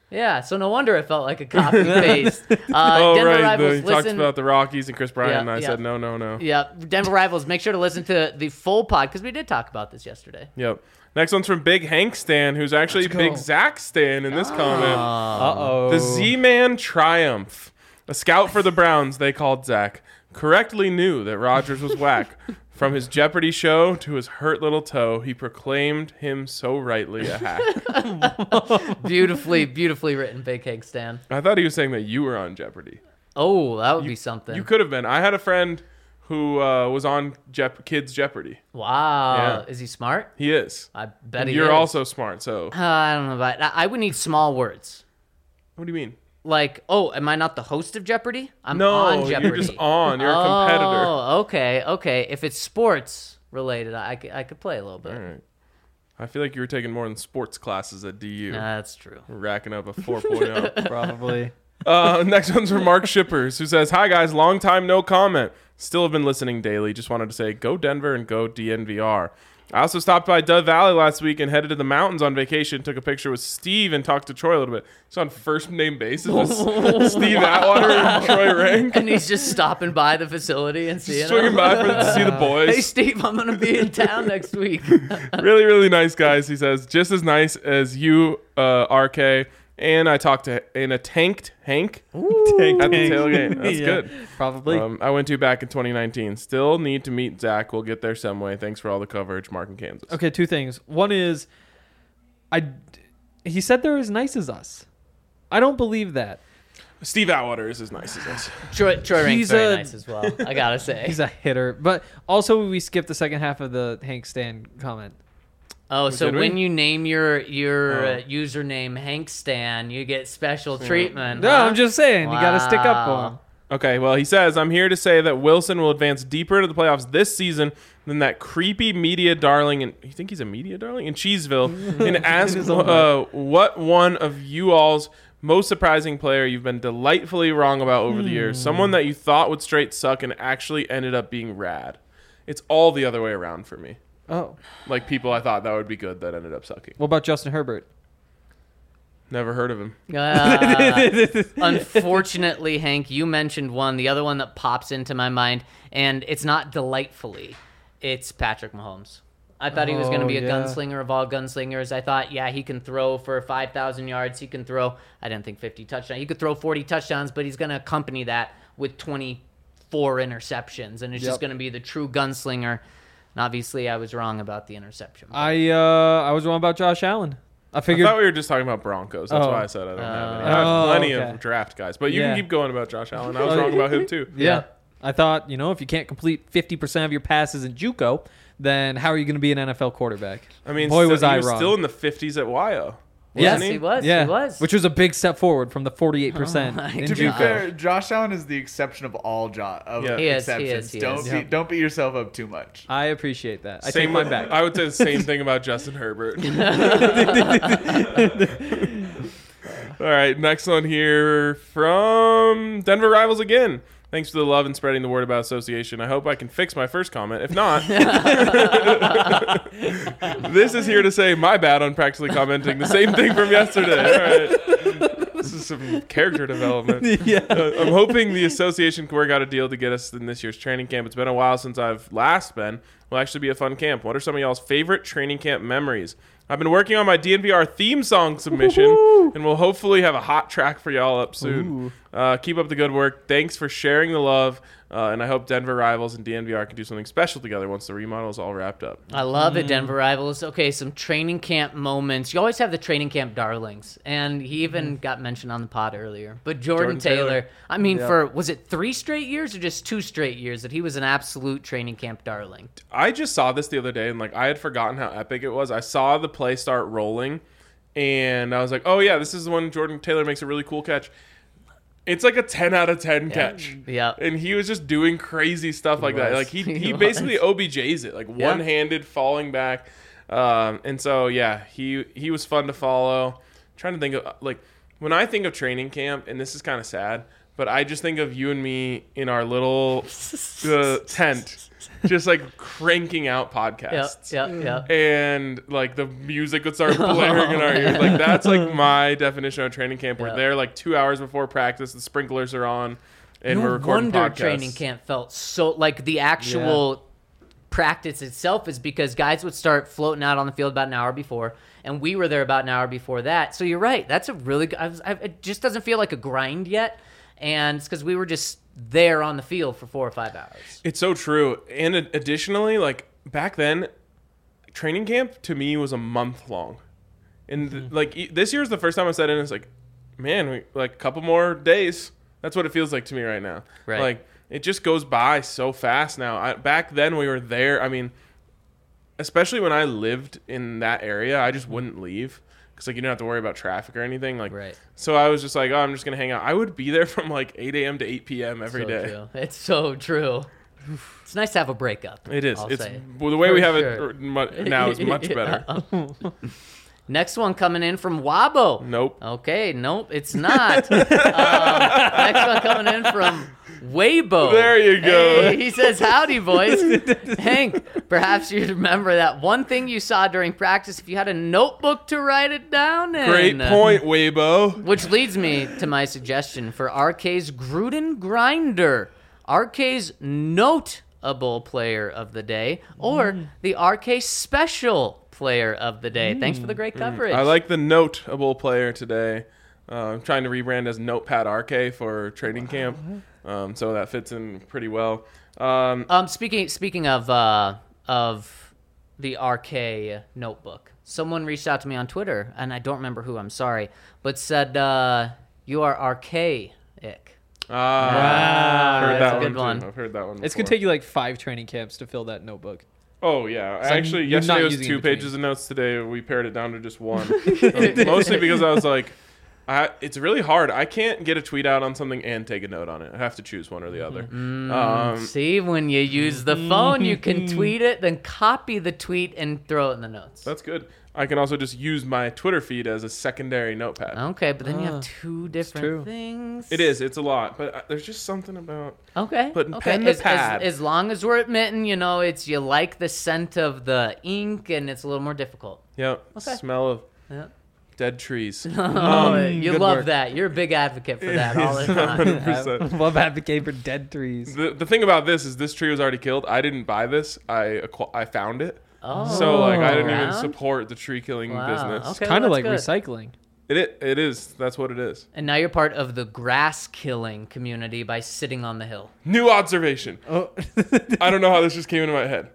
[SPEAKER 2] Yeah, so no wonder it felt like a copy paste.
[SPEAKER 1] Oh,
[SPEAKER 2] Denver
[SPEAKER 1] right.
[SPEAKER 2] Rivals,
[SPEAKER 1] He talked
[SPEAKER 2] listen.
[SPEAKER 1] about the Rockies and Chris Bryant,
[SPEAKER 2] Yeah,
[SPEAKER 1] and I
[SPEAKER 2] yeah.
[SPEAKER 1] said no.
[SPEAKER 2] Yeah, Denver Rivals. Make sure to listen to the full pod because we did talk about this yesterday.
[SPEAKER 1] Yep. Next one's from Big Hank Stan, who's actually Big Zach Stan in this comment.
[SPEAKER 4] Uh-oh.
[SPEAKER 1] The Z-Man Triumph. A scout for the Browns, they called Zach, correctly knew that Rodgers was whack. From his Jeopardy show to his hurt little toe, he proclaimed him so rightly a hack.
[SPEAKER 2] Beautifully written, Big Hank Stan.
[SPEAKER 1] I thought he was saying that you were on Jeopardy.
[SPEAKER 2] Oh, that would be something.
[SPEAKER 1] You could have been. I had a friend who was on Kids Jeopardy.
[SPEAKER 2] Wow.
[SPEAKER 1] Yeah.
[SPEAKER 2] Is he smart?
[SPEAKER 1] He is.
[SPEAKER 2] I bet
[SPEAKER 1] And
[SPEAKER 2] he
[SPEAKER 1] you're
[SPEAKER 2] is.
[SPEAKER 1] also smart, so
[SPEAKER 2] I don't know about I would need small words.
[SPEAKER 1] what do you mean?
[SPEAKER 2] Like, oh, am I not the host of Jeopardy? I'm
[SPEAKER 1] No,
[SPEAKER 2] on Jeopardy.
[SPEAKER 1] you're just on. You're a competitor.
[SPEAKER 2] Oh, okay. If it's sports related, I could play a little bit.
[SPEAKER 1] All right. I feel like you were taking more than sports classes at DU.
[SPEAKER 2] That's true.
[SPEAKER 1] Racking up a 4.0.
[SPEAKER 4] Probably.
[SPEAKER 1] Next one's from Mark Shippers, who says, "Hi guys, long time no comment. Still have been listening daily. Just wanted to say, go Denver and go DNVR. I also stopped by Dove Valley last week and headed to the mountains on vacation. Took a picture with Steve and talked to Troy a little bit. He's on first name basis with Steve Atwater and Troy Rank.
[SPEAKER 2] And he's just stopping by the facility and seeing
[SPEAKER 1] Swinging
[SPEAKER 2] him.
[SPEAKER 1] by to see the boys.
[SPEAKER 2] Hey, Steve, I'm going to be in town next week.
[SPEAKER 1] Really, really nice guys, he says. Just as nice as you, RK. And I talked to in a tanked Hank at the tailgate. That's
[SPEAKER 4] Yeah,
[SPEAKER 1] good.
[SPEAKER 4] Probably.
[SPEAKER 1] I went to back in 2019. Still need to meet Zach. We'll get there some way. Thanks for all the coverage. Mark in Kansas.
[SPEAKER 4] Okay, two things. One is, he said they're as nice as us. I don't believe that.
[SPEAKER 1] Steve Atwater is as nice as us.
[SPEAKER 2] Troy Rank's
[SPEAKER 4] He's
[SPEAKER 2] very
[SPEAKER 4] a-
[SPEAKER 2] nice as well, I got to say.
[SPEAKER 4] He's a hitter. But also, we skipped the second half of the Hank Stan comment.
[SPEAKER 2] Oh, so
[SPEAKER 1] did we?
[SPEAKER 2] when you name your username Hank Stan, you get special treatment.
[SPEAKER 4] No,
[SPEAKER 2] huh?
[SPEAKER 4] I'm just saying. You got to stick up for
[SPEAKER 2] Wow.
[SPEAKER 4] him.
[SPEAKER 1] Okay, well, he says, I'm here to say that Wilson will advance deeper into the playoffs this season than that creepy media darling. And you think he's a media darling? In Cheeseville. And ask what one of you all's most surprising player you've been delightfully wrong about over the years. Someone that you thought would straight suck and actually ended up being rad. It's all the other way around for me.
[SPEAKER 4] Oh.
[SPEAKER 1] Like people I thought that would be good that ended up sucking.
[SPEAKER 4] What about Justin Herbert?
[SPEAKER 1] Never heard of him.
[SPEAKER 2] Unfortunately, Hank, you mentioned one. The other one that pops into my mind, and it's not delightfully. It's Patrick Mahomes. I thought he was going to be a
[SPEAKER 4] yeah.
[SPEAKER 2] gunslinger of all gunslingers. I thought, yeah, he can throw for 5,000 yards. He can throw, I didn't think 50 touchdowns. He could throw 40 touchdowns, but he's going to accompany that with 24 interceptions, and it's just going to be the true gunslinger. And obviously, I was wrong about the interception.
[SPEAKER 4] I was wrong about Josh Allen. I
[SPEAKER 1] I
[SPEAKER 4] figured.
[SPEAKER 1] thought we were just talking about Broncos. That's
[SPEAKER 4] Oh.
[SPEAKER 1] why I said I don't have any. I have plenty
[SPEAKER 4] okay.
[SPEAKER 1] of draft guys. But you
[SPEAKER 4] Yeah.
[SPEAKER 1] can keep going about Josh Allen. I was wrong about him too.
[SPEAKER 4] Yeah. I thought, if you can't complete 50% of your passes in JUCO, then how are you going to be an NFL quarterback?
[SPEAKER 1] I mean,
[SPEAKER 4] Boy, was
[SPEAKER 1] he
[SPEAKER 4] I
[SPEAKER 1] was
[SPEAKER 4] wrong.
[SPEAKER 1] still in the 50s at YO.
[SPEAKER 2] Yes,
[SPEAKER 1] wasn't
[SPEAKER 2] he was.
[SPEAKER 4] Yeah,
[SPEAKER 2] He was.
[SPEAKER 4] which was a big step forward from the 48%
[SPEAKER 2] my
[SPEAKER 4] in
[SPEAKER 5] To be
[SPEAKER 4] JUCO.
[SPEAKER 5] fair, Josh Allen is the exception of all
[SPEAKER 1] Yeah.
[SPEAKER 2] He is, he
[SPEAKER 5] exceptions.
[SPEAKER 2] is, he
[SPEAKER 5] Don't
[SPEAKER 2] is.
[SPEAKER 5] be, don't beat yourself up too much.
[SPEAKER 4] I appreciate that. I
[SPEAKER 1] Same
[SPEAKER 4] take mine
[SPEAKER 1] with-
[SPEAKER 4] back.
[SPEAKER 1] I would say the same thing about Justin Herbert. All right, next one here from Denver Rivals again. Thanks for the love and spreading the word about association. I hope I can fix my first comment. If not, this is here to say my bad on practically commenting the same thing from yesterday. All right. This is some character development.
[SPEAKER 4] Yeah.
[SPEAKER 1] I'm hoping the association can work out a deal to get us in this year's training camp. It's been a while since I've last been. Will actually be a fun camp. What are some of y'all's favorite training camp memories? I've been working on my DNVR theme song submission, and we'll hopefully have a hot track for y'all up soon. Keep up the good work. Thanks for sharing the love, and I hope Denver Rivals and DNVR can do something special together once the remodel is all wrapped up.
[SPEAKER 2] I love it, Denver Rivals. Okay, some training camp moments. You always have the training camp darlings, and he even got mentioned on the pod earlier. But Jordan Taylor, I mean, for, was it 3 straight years or just 2 straight years that he was an absolute training camp darling?
[SPEAKER 1] I just saw this the other day, and I had forgotten how epic it was. I saw the play start rolling, and I was like, oh yeah, this is the one Jordan Taylor makes a really cool catch. It's like a 10 out of 10 catch.
[SPEAKER 2] Yeah.
[SPEAKER 1] And he was just doing crazy stuff like that.
[SPEAKER 2] was.
[SPEAKER 1] Like he
[SPEAKER 2] He
[SPEAKER 1] basically OBJs it, like
[SPEAKER 2] Yeah.
[SPEAKER 1] one-handed falling back. And so yeah, he was fun to follow. I'm trying to think of when I think of training camp, and this is kind of sad, but I just think of you and me in our little tent, just like cranking out podcasts.
[SPEAKER 2] Yep.
[SPEAKER 1] And like the music would start blaring in our ears. Like that's like my definition of training camp. We're there like 2 hours before practice. The sprinklers are on, and we're recording
[SPEAKER 2] wonder
[SPEAKER 1] podcasts.
[SPEAKER 2] training camp felt so like the actual practice itself is because guys would start floating out on the field about an hour before, and we were there about an hour before that. So you're right. That's a really good. It just doesn't feel like a grind yet, and it's because we were just there on the field for 4 or 5 hours.
[SPEAKER 1] It's so true. And additionally, like back then, training camp to me was a month long. And like this year's the first time I said it, and it's like, man, we like a couple more days. That's what it feels like to me right now.
[SPEAKER 2] Right.
[SPEAKER 1] Like it just goes by so fast now. Back then we were there. I mean, especially when I lived in that area, I just wouldn't leave. Because like you don't have to worry about traffic or anything. Like,
[SPEAKER 2] Right.
[SPEAKER 1] So I was just like, oh, I'm just gonna hang out. I would be there from like 8 a.m. to 8 p.m. every day.
[SPEAKER 2] True. It's so true. It's nice to have a breakup.
[SPEAKER 1] It is.
[SPEAKER 2] I'll
[SPEAKER 1] It's
[SPEAKER 2] say.
[SPEAKER 1] well, the way we
[SPEAKER 2] For
[SPEAKER 1] have
[SPEAKER 2] sure.
[SPEAKER 1] it now is much better.
[SPEAKER 2] Next one coming in from Wabo.
[SPEAKER 1] Nope.
[SPEAKER 2] Okay, nope, it's not. Next one coming in from Weibo.
[SPEAKER 1] There you go.
[SPEAKER 2] Hey, he says, howdy, boys. Hank, perhaps you remember that one thing you saw during practice if you had a notebook to write it down in.
[SPEAKER 1] Great point, Weibo.
[SPEAKER 2] Which leads me to my suggestion for RK's Gruden Grinder. RK's notable player of the day, or the RK special player of the day. Thanks for the great coverage.
[SPEAKER 1] I like the notable player today. I'm trying to rebrand as Notepad RK for training camp, so that fits in pretty well.
[SPEAKER 2] Speaking of the RK notebook, someone reached out to me on Twitter, and I don't remember who. I'm sorry, but said you are archaic.
[SPEAKER 1] Heard
[SPEAKER 2] that's
[SPEAKER 1] that
[SPEAKER 2] a good
[SPEAKER 1] one.
[SPEAKER 2] one.
[SPEAKER 1] Too. I've heard that one.
[SPEAKER 4] It's gonna
[SPEAKER 1] before.
[SPEAKER 4] take you like 5 training camps to fill that notebook.
[SPEAKER 1] Oh yeah,
[SPEAKER 4] So
[SPEAKER 1] actually,
[SPEAKER 4] you're not
[SPEAKER 1] yesterday was
[SPEAKER 4] using
[SPEAKER 1] 2
[SPEAKER 4] in between.
[SPEAKER 1] pages of notes. Today we pared it down to just 1. Mostly because I was like, it's really hard. I can't get a tweet out on something and take a note on it. I have to choose one or the other.
[SPEAKER 2] See, when you use the phone, you can tweet it, then copy the tweet and throw it in the notes.
[SPEAKER 1] That's good. I can also just use my Twitter feed as a secondary notepad.
[SPEAKER 2] Okay, but then you have 2
[SPEAKER 4] true.
[SPEAKER 2] different things.
[SPEAKER 1] It is. It's a lot, but there's just something about.
[SPEAKER 2] Okay.
[SPEAKER 1] Putting
[SPEAKER 2] okay.
[SPEAKER 1] pen to
[SPEAKER 2] as,
[SPEAKER 1] pad.
[SPEAKER 2] As long as we're admitting, it's you like the scent of the ink, and it's a little more difficult.
[SPEAKER 1] Yep.
[SPEAKER 2] Okay.
[SPEAKER 1] Smell of
[SPEAKER 2] Yeah.
[SPEAKER 1] dead trees.
[SPEAKER 2] Oh, you
[SPEAKER 4] good
[SPEAKER 2] love
[SPEAKER 4] work.
[SPEAKER 2] that. You're a big advocate for that all the time.
[SPEAKER 1] 100%.
[SPEAKER 4] Love advocate for dead trees.
[SPEAKER 1] The thing about this is this tree was already killed. I didn't buy this. I found it.
[SPEAKER 2] Oh,
[SPEAKER 1] So like I didn't even
[SPEAKER 2] around?
[SPEAKER 1] support the tree killing
[SPEAKER 2] Wow.
[SPEAKER 1] business.
[SPEAKER 2] Okay,
[SPEAKER 4] Kind of
[SPEAKER 2] well,
[SPEAKER 4] like
[SPEAKER 2] that's good.
[SPEAKER 4] recycling.
[SPEAKER 1] It is. That's what it is.
[SPEAKER 2] And now you're part of the grass killing community by sitting on the hill.
[SPEAKER 1] New observation.
[SPEAKER 4] Oh,
[SPEAKER 1] I don't know how this just came into my head.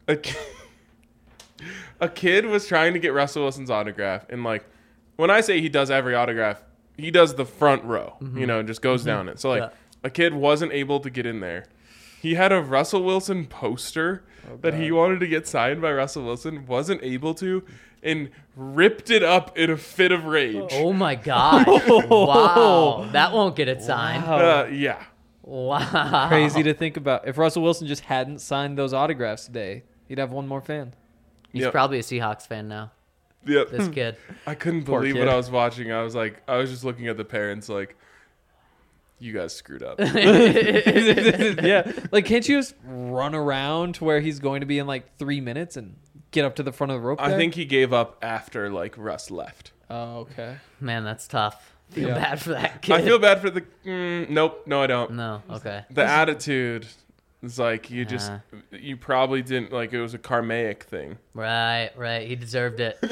[SPEAKER 1] A kid was trying to get Russell Wilson's autograph, and like when I say he does every autograph, he does the front row. Just goes down it. So like
[SPEAKER 2] Yeah.
[SPEAKER 1] a kid wasn't able to get in there. He had a Russell Wilson poster that he wanted to get signed by Russell Wilson, wasn't able to, and ripped it up in a fit of rage.
[SPEAKER 2] Oh my God. Wow. That won't get it signed.
[SPEAKER 1] Yeah.
[SPEAKER 2] Wow.
[SPEAKER 4] crazy to think about. If Russell Wilson just hadn't signed those autographs today, he'd have one more fan.
[SPEAKER 2] He's
[SPEAKER 1] Yep.
[SPEAKER 2] probably a Seahawks fan now,
[SPEAKER 1] Yep.
[SPEAKER 2] this kid.
[SPEAKER 1] I couldn't
[SPEAKER 4] Poor
[SPEAKER 1] believe
[SPEAKER 4] kid.
[SPEAKER 1] what I was watching. I was just looking at the parents like, you guys screwed up.
[SPEAKER 4] Yeah. Like, can't you just run around to where he's going to be in like 3 minutes and get up to the front of the rope
[SPEAKER 1] I
[SPEAKER 4] there?
[SPEAKER 1] think he gave up after like Russ left.
[SPEAKER 4] Oh, okay.
[SPEAKER 2] Man, that's tough. Feel
[SPEAKER 4] Yeah.
[SPEAKER 2] bad for that kid.
[SPEAKER 1] I feel bad for the. Nope, no, I don't.
[SPEAKER 2] No, okay.
[SPEAKER 1] The attitude is like you probably didn't like it was a karmic thing.
[SPEAKER 2] Right. He deserved it.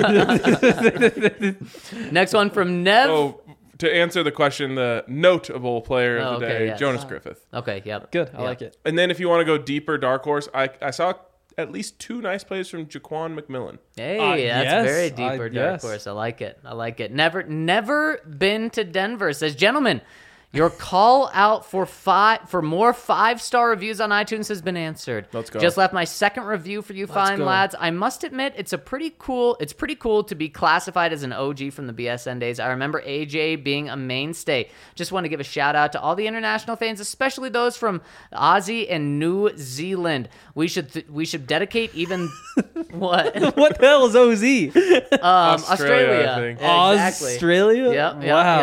[SPEAKER 2] Next one from Nev.
[SPEAKER 1] Oh, to answer the question, the notable player of the
[SPEAKER 2] okay,
[SPEAKER 1] day,
[SPEAKER 2] yes.
[SPEAKER 1] Jonas Griffith.
[SPEAKER 2] Okay, yep.
[SPEAKER 4] Good. I
[SPEAKER 2] Yeah.
[SPEAKER 4] like it.
[SPEAKER 1] And then if you want to go deeper, dark horse, I saw at least 2 nice plays from Jaquan McMillan.
[SPEAKER 2] Hey,
[SPEAKER 4] yes,
[SPEAKER 2] that's very deeper dark
[SPEAKER 4] yes.
[SPEAKER 2] horse. I like it. Never been to Denver. Says, gentlemen, your call out for more 5-star reviews on iTunes has been answered.
[SPEAKER 1] Let's go.
[SPEAKER 2] Just left my second review for you fine
[SPEAKER 4] go.
[SPEAKER 2] lads. I must admit, it's pretty cool to be classified as an OG from the BSN days. I remember AJ being a mainstay. Just want to give a shout out to all the international fans, especially those from Aussie and New Zealand. We should dedicate even what?
[SPEAKER 4] What the hell is OZ?
[SPEAKER 2] Australia.
[SPEAKER 1] I think.
[SPEAKER 2] Yeah, exactly.
[SPEAKER 4] Australia?
[SPEAKER 2] Yep.
[SPEAKER 4] Wow.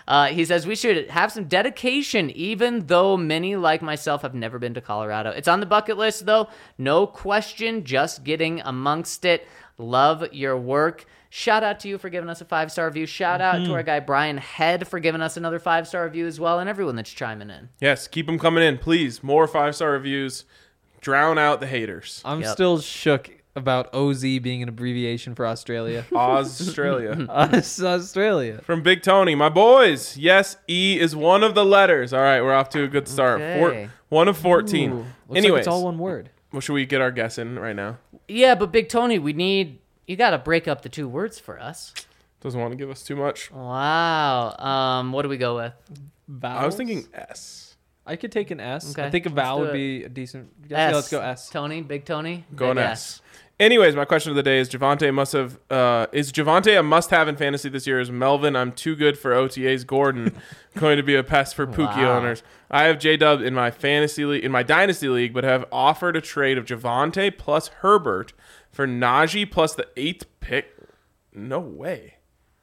[SPEAKER 2] He says we should have some dedication, even though many like myself have never been to Colorado. It's on the bucket list, though. No question, just getting amongst it. Love your work. Shout out to you for giving us a 5-star review. Shout out to our guy Brian Head for giving us another 5-star review as well, and everyone that's chiming in.
[SPEAKER 1] Yes, keep them coming in, please. More 5-star reviews. Drown out the haters.
[SPEAKER 4] I'm still shook about OZ being an abbreviation for Australia.
[SPEAKER 1] Australia.
[SPEAKER 4] Australia.
[SPEAKER 1] From Big Tony, my boys. Yes, E is one of the letters. All right, we're off to a good start.
[SPEAKER 2] Okay.
[SPEAKER 1] 1 of 14.
[SPEAKER 4] Looks
[SPEAKER 1] Anyways,
[SPEAKER 4] like it's all one word.
[SPEAKER 1] well, should we get our guess in right now?
[SPEAKER 2] Yeah, but Big Tony, you got to break up the 2 words for us.
[SPEAKER 1] Doesn't want to give us too much.
[SPEAKER 2] Wow. What do we go with?
[SPEAKER 4] Vowels?
[SPEAKER 1] I was thinking S.
[SPEAKER 4] I could take an S.
[SPEAKER 2] Okay,
[SPEAKER 4] I think a
[SPEAKER 2] let's
[SPEAKER 4] vowel
[SPEAKER 2] do
[SPEAKER 4] would
[SPEAKER 2] it.
[SPEAKER 4] be a decent guess.
[SPEAKER 2] S.
[SPEAKER 4] Yeah, let's go S.
[SPEAKER 2] Tony, Big Tony.
[SPEAKER 1] Going
[SPEAKER 2] Big
[SPEAKER 1] S. Anyways, my question of the day is is Javonte a must-have in fantasy this year? Is Melvin, I'm too good for OTAs, Gordon, going to be a pest for Pookie
[SPEAKER 2] Wow.
[SPEAKER 1] owners? I have J-Dub in my fantasy league, in my dynasty league, but have offered a trade of Javonte plus Herbert for Najee plus the 8th pick. No way.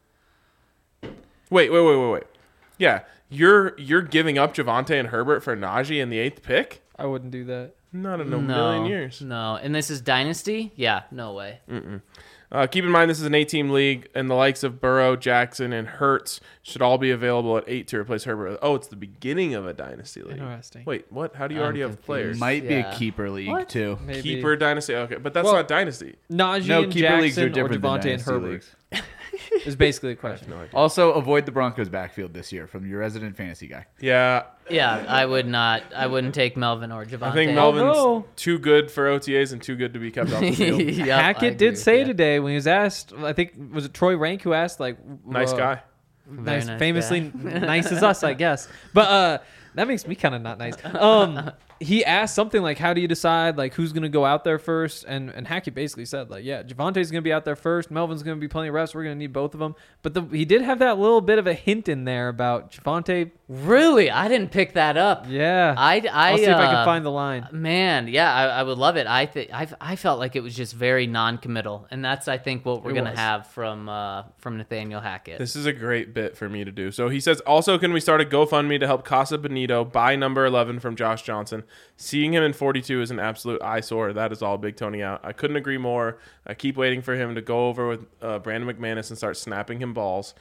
[SPEAKER 1] Wait. Yeah, you're giving up Javonte and Herbert for Najee in the 8th pick?
[SPEAKER 4] I wouldn't do that.
[SPEAKER 1] Not in a
[SPEAKER 2] No,
[SPEAKER 1] million years.
[SPEAKER 2] No, and this is Dynasty? Yeah, no way.
[SPEAKER 1] Keep in mind this is an 8-team league, and the likes of Burrow, Jackson, and Hurts should all be available at 8 to replace Herbert. Oh, it's the beginning of a dynasty league.
[SPEAKER 4] Interesting.
[SPEAKER 1] Wait, what? How do you
[SPEAKER 2] I'm
[SPEAKER 1] already have
[SPEAKER 2] confused.
[SPEAKER 1] players?
[SPEAKER 5] Might be
[SPEAKER 2] Yeah.
[SPEAKER 5] a keeper league
[SPEAKER 2] What?
[SPEAKER 5] too.
[SPEAKER 4] Maybe.
[SPEAKER 1] Keeper dynasty. Okay, but that's
[SPEAKER 4] Well-
[SPEAKER 1] not dynasty.
[SPEAKER 4] Najee
[SPEAKER 5] No,
[SPEAKER 4] and
[SPEAKER 5] keeper leagues are
[SPEAKER 4] Jackson or
[SPEAKER 5] different than
[SPEAKER 4] Devontae and
[SPEAKER 5] dynasty
[SPEAKER 4] Herbert
[SPEAKER 5] leagues.
[SPEAKER 4] is basically the question.
[SPEAKER 1] No idea.
[SPEAKER 5] Also, avoid the Broncos backfield this year from your resident fantasy guy.
[SPEAKER 1] Yeah,
[SPEAKER 2] Yeah, I wouldn't take Melvin or Javonte.
[SPEAKER 1] I think Melvin's
[SPEAKER 4] Although-
[SPEAKER 1] too good for OTAs and too good to be kept off the field.
[SPEAKER 2] Yep, I
[SPEAKER 4] Hackett
[SPEAKER 2] agree
[SPEAKER 4] did
[SPEAKER 2] with
[SPEAKER 4] say
[SPEAKER 2] you.
[SPEAKER 4] today when he was asked, I think, was it Troy Rank who asked, like...
[SPEAKER 1] Nice guy.
[SPEAKER 2] Very
[SPEAKER 4] Nice,
[SPEAKER 2] nice
[SPEAKER 4] famously
[SPEAKER 2] guy.
[SPEAKER 4] nice as us, I guess. But that makes me kind of not nice. He asked something like, how do you decide like who's going to go out there first? And Hackett basically said like, yeah, Javonte's going to be out there first. Melvin's going to be plenty of reps. We're going to need both of them. But he did have that little bit of a hint in there about Javonte.
[SPEAKER 2] Really? I didn't pick that up.
[SPEAKER 4] Yeah.
[SPEAKER 2] I'll
[SPEAKER 4] see if I can find the line.
[SPEAKER 2] Man, yeah, I would love it. I felt like it was just very non-committal, and that's I think what we're
[SPEAKER 4] It
[SPEAKER 2] gonna
[SPEAKER 4] was.
[SPEAKER 2] have from Nathaniel Hackett.
[SPEAKER 1] This is a great bit for me to do. So he says, also, can we start a GoFundMe to help Casa Benito buy number 11 from Josh Johnson? Seeing him in 42 is an absolute eyesore. That is all. Big Tony out. I couldn't agree more. I keep waiting for him to go over with Brandon McManus and start snapping him balls.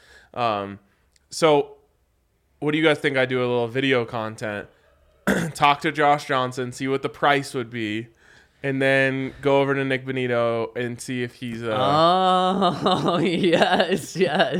[SPEAKER 1] So what do you guys think? I do a little video content, talk to Josh Johnson, see what the price would be, and then go over to Nick Benito and see if he's
[SPEAKER 2] Oh, yes.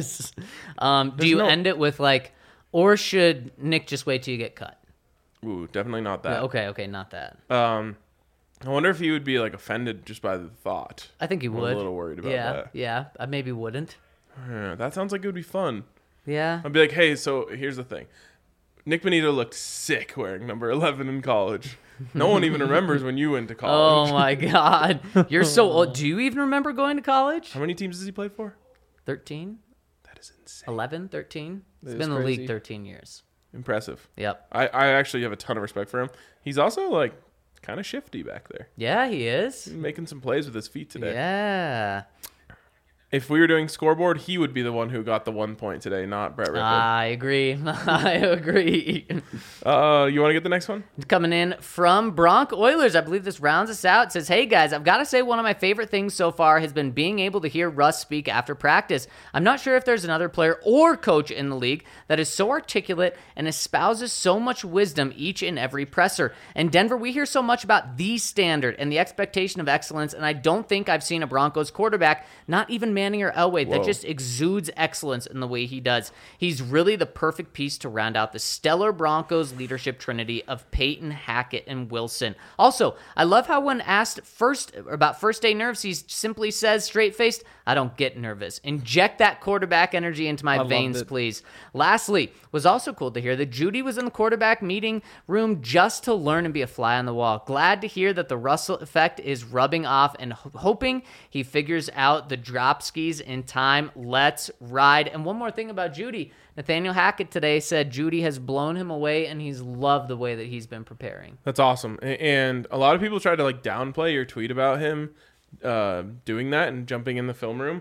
[SPEAKER 2] Do you
[SPEAKER 1] no-
[SPEAKER 2] end it with like, or should Nick just wait till you get cut?
[SPEAKER 1] ooh, definitely not that.
[SPEAKER 2] Okay, not that.
[SPEAKER 1] I wonder if he would be like offended just by the thought.
[SPEAKER 2] I think he
[SPEAKER 1] I'm
[SPEAKER 2] would.
[SPEAKER 1] a little worried about
[SPEAKER 2] yeah,
[SPEAKER 1] that.
[SPEAKER 2] Yeah, I maybe wouldn't.
[SPEAKER 1] Yeah, that sounds like it would be fun.
[SPEAKER 2] Yeah.
[SPEAKER 1] I'd be like, hey, so here's the thing. Nick Benito looked sick wearing number 11 in college. No one even remembers when you went to college.
[SPEAKER 2] Oh my God, you're so old. Do you even remember going to college?
[SPEAKER 1] How many teams does he play for?
[SPEAKER 2] 13,
[SPEAKER 1] That is insane.
[SPEAKER 2] 11, 13. It's
[SPEAKER 4] That
[SPEAKER 2] been
[SPEAKER 4] is
[SPEAKER 2] in the league
[SPEAKER 4] crazy.
[SPEAKER 2] 13 years.
[SPEAKER 1] Impressive.
[SPEAKER 2] Yep.
[SPEAKER 1] I actually have a ton of respect for him. He's also like kind of shifty back there.
[SPEAKER 2] Yeah, he is.
[SPEAKER 1] He's making some plays with his feet today.
[SPEAKER 2] Yeah.
[SPEAKER 1] If we were doing scoreboard, he would be the one who got the 1 point today, not Brett Rippon.
[SPEAKER 2] I agree. I agree.
[SPEAKER 1] You want to get the next one?
[SPEAKER 2] Coming in from Bronc Oilers. I believe this rounds us out. It says, hey guys, I've got to say one of my favorite things so far has been being able to hear Russ speak after practice. I'm not sure if there's another player or coach in the league that is so articulate and espouses so much wisdom each and every presser. In Denver, we hear so much about the standard and the expectation of excellence, and I don't think I've seen a Broncos quarterback, not even Manning or Elway, that just exudes excellence in the way he does. He's really the perfect piece to round out the stellar Broncos leadership trinity of Peyton, Hackett, and Wilson. Also, I love how when asked about first day nerves, he simply says straight-faced, I don't get nervous. Inject that quarterback energy into my
[SPEAKER 4] loved
[SPEAKER 2] veins,
[SPEAKER 4] it.
[SPEAKER 2] please. Lastly, was also cool to hear that Judy was in the quarterback meeting room just to learn and be a fly on the wall. Glad to hear that the Russell effect is rubbing off and hoping he figures out the drop skis in time. Let's ride. And one more thing about Judy. Nathaniel Hackett today said Judy has blown him away and he's loved the way that he's been preparing.
[SPEAKER 1] That's awesome. And a lot of people try to like downplay your tweet about him doing that and jumping in the film room.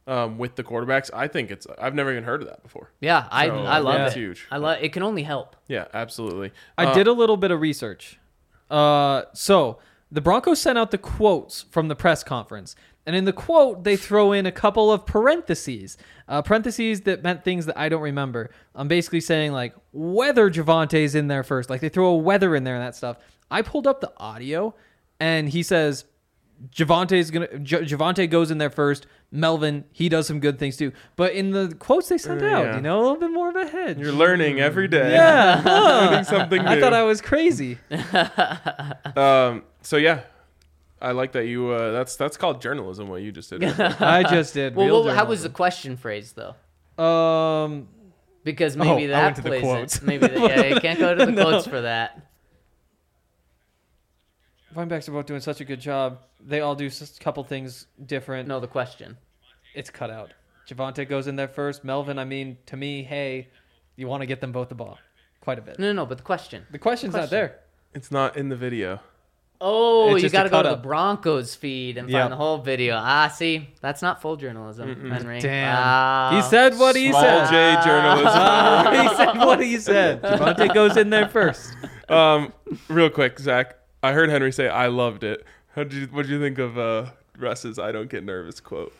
[SPEAKER 1] with the quarterbacks. I think I've never even heard of that before.
[SPEAKER 2] Yeah, I
[SPEAKER 1] So,
[SPEAKER 2] love
[SPEAKER 1] that's
[SPEAKER 2] it.
[SPEAKER 1] huge.
[SPEAKER 2] I love it. Can only help.
[SPEAKER 1] Yeah, absolutely.
[SPEAKER 4] I did a little bit of research. So the Broncos sent out the quotes from the press conference. And in the quote, they throw in a couple of parentheses. Parentheses that meant things that I don't remember. I'm basically saying, like, whether Javante's in there first. Like, they throw a weather in there and that stuff. I pulled up the audio, and he says, Javante goes in there first. Melvin, he does some good things too. But in the quotes they sent out,
[SPEAKER 1] Yeah.
[SPEAKER 4] a little bit more of a hedge.
[SPEAKER 1] You're learning every day.
[SPEAKER 4] Yeah.
[SPEAKER 1] Learning something new.
[SPEAKER 4] I thought I was crazy.
[SPEAKER 1] So yeah, I like that you. That's called journalism. What you just did.
[SPEAKER 4] I just did.
[SPEAKER 2] Well, how was the question phrased though? Because maybe
[SPEAKER 4] I
[SPEAKER 2] that
[SPEAKER 4] went to the
[SPEAKER 2] plays
[SPEAKER 4] quotes.
[SPEAKER 2] it. Maybe you can't go to the quotes for that.
[SPEAKER 4] Running backs are both doing such a good job. They all do a couple things different.
[SPEAKER 2] No, the question.
[SPEAKER 4] It's cut out. Javante goes in there first. Melvin, to me, hey, you want to get them both the ball quite a bit.
[SPEAKER 2] No, but the question.
[SPEAKER 4] The question's not there.
[SPEAKER 1] It's not in the video.
[SPEAKER 2] Oh,
[SPEAKER 4] It's
[SPEAKER 2] you
[SPEAKER 4] just
[SPEAKER 2] got to
[SPEAKER 4] a
[SPEAKER 2] go to the
[SPEAKER 4] cut-up.
[SPEAKER 2] Broncos feed and
[SPEAKER 4] Yep.
[SPEAKER 2] find the whole video. See, that's not full journalism, Henry.
[SPEAKER 4] Damn. He said what he
[SPEAKER 1] Small
[SPEAKER 4] said.
[SPEAKER 1] J journalism.
[SPEAKER 4] He said what he said. Javante goes in there first.
[SPEAKER 1] Real quick, Zach. I heard Henry say, "I loved it." What did you think of Russ's "I don't get nervous" quote?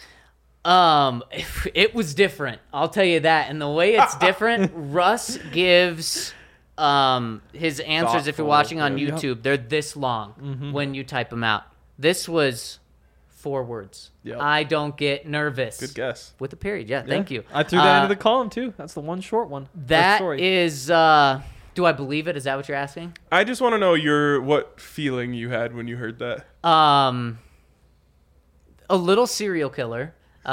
[SPEAKER 2] It was different. I'll tell you that. And the way it's different, Russ gives his answers. If you're
[SPEAKER 1] Thoughtful,
[SPEAKER 2] watching on
[SPEAKER 1] yeah.
[SPEAKER 2] YouTube, they're this long when you type them out. This was 4 words.
[SPEAKER 1] Yep.
[SPEAKER 2] I don't get nervous.
[SPEAKER 1] Good guess.
[SPEAKER 2] With a period. Yeah, thank you.
[SPEAKER 4] I threw that into the column too. That's the one short one.
[SPEAKER 2] That
[SPEAKER 4] story.
[SPEAKER 2] is. Do I believe it? Is that what you're asking?
[SPEAKER 1] I just want to know what feeling you had when you heard that.
[SPEAKER 2] A little serial killer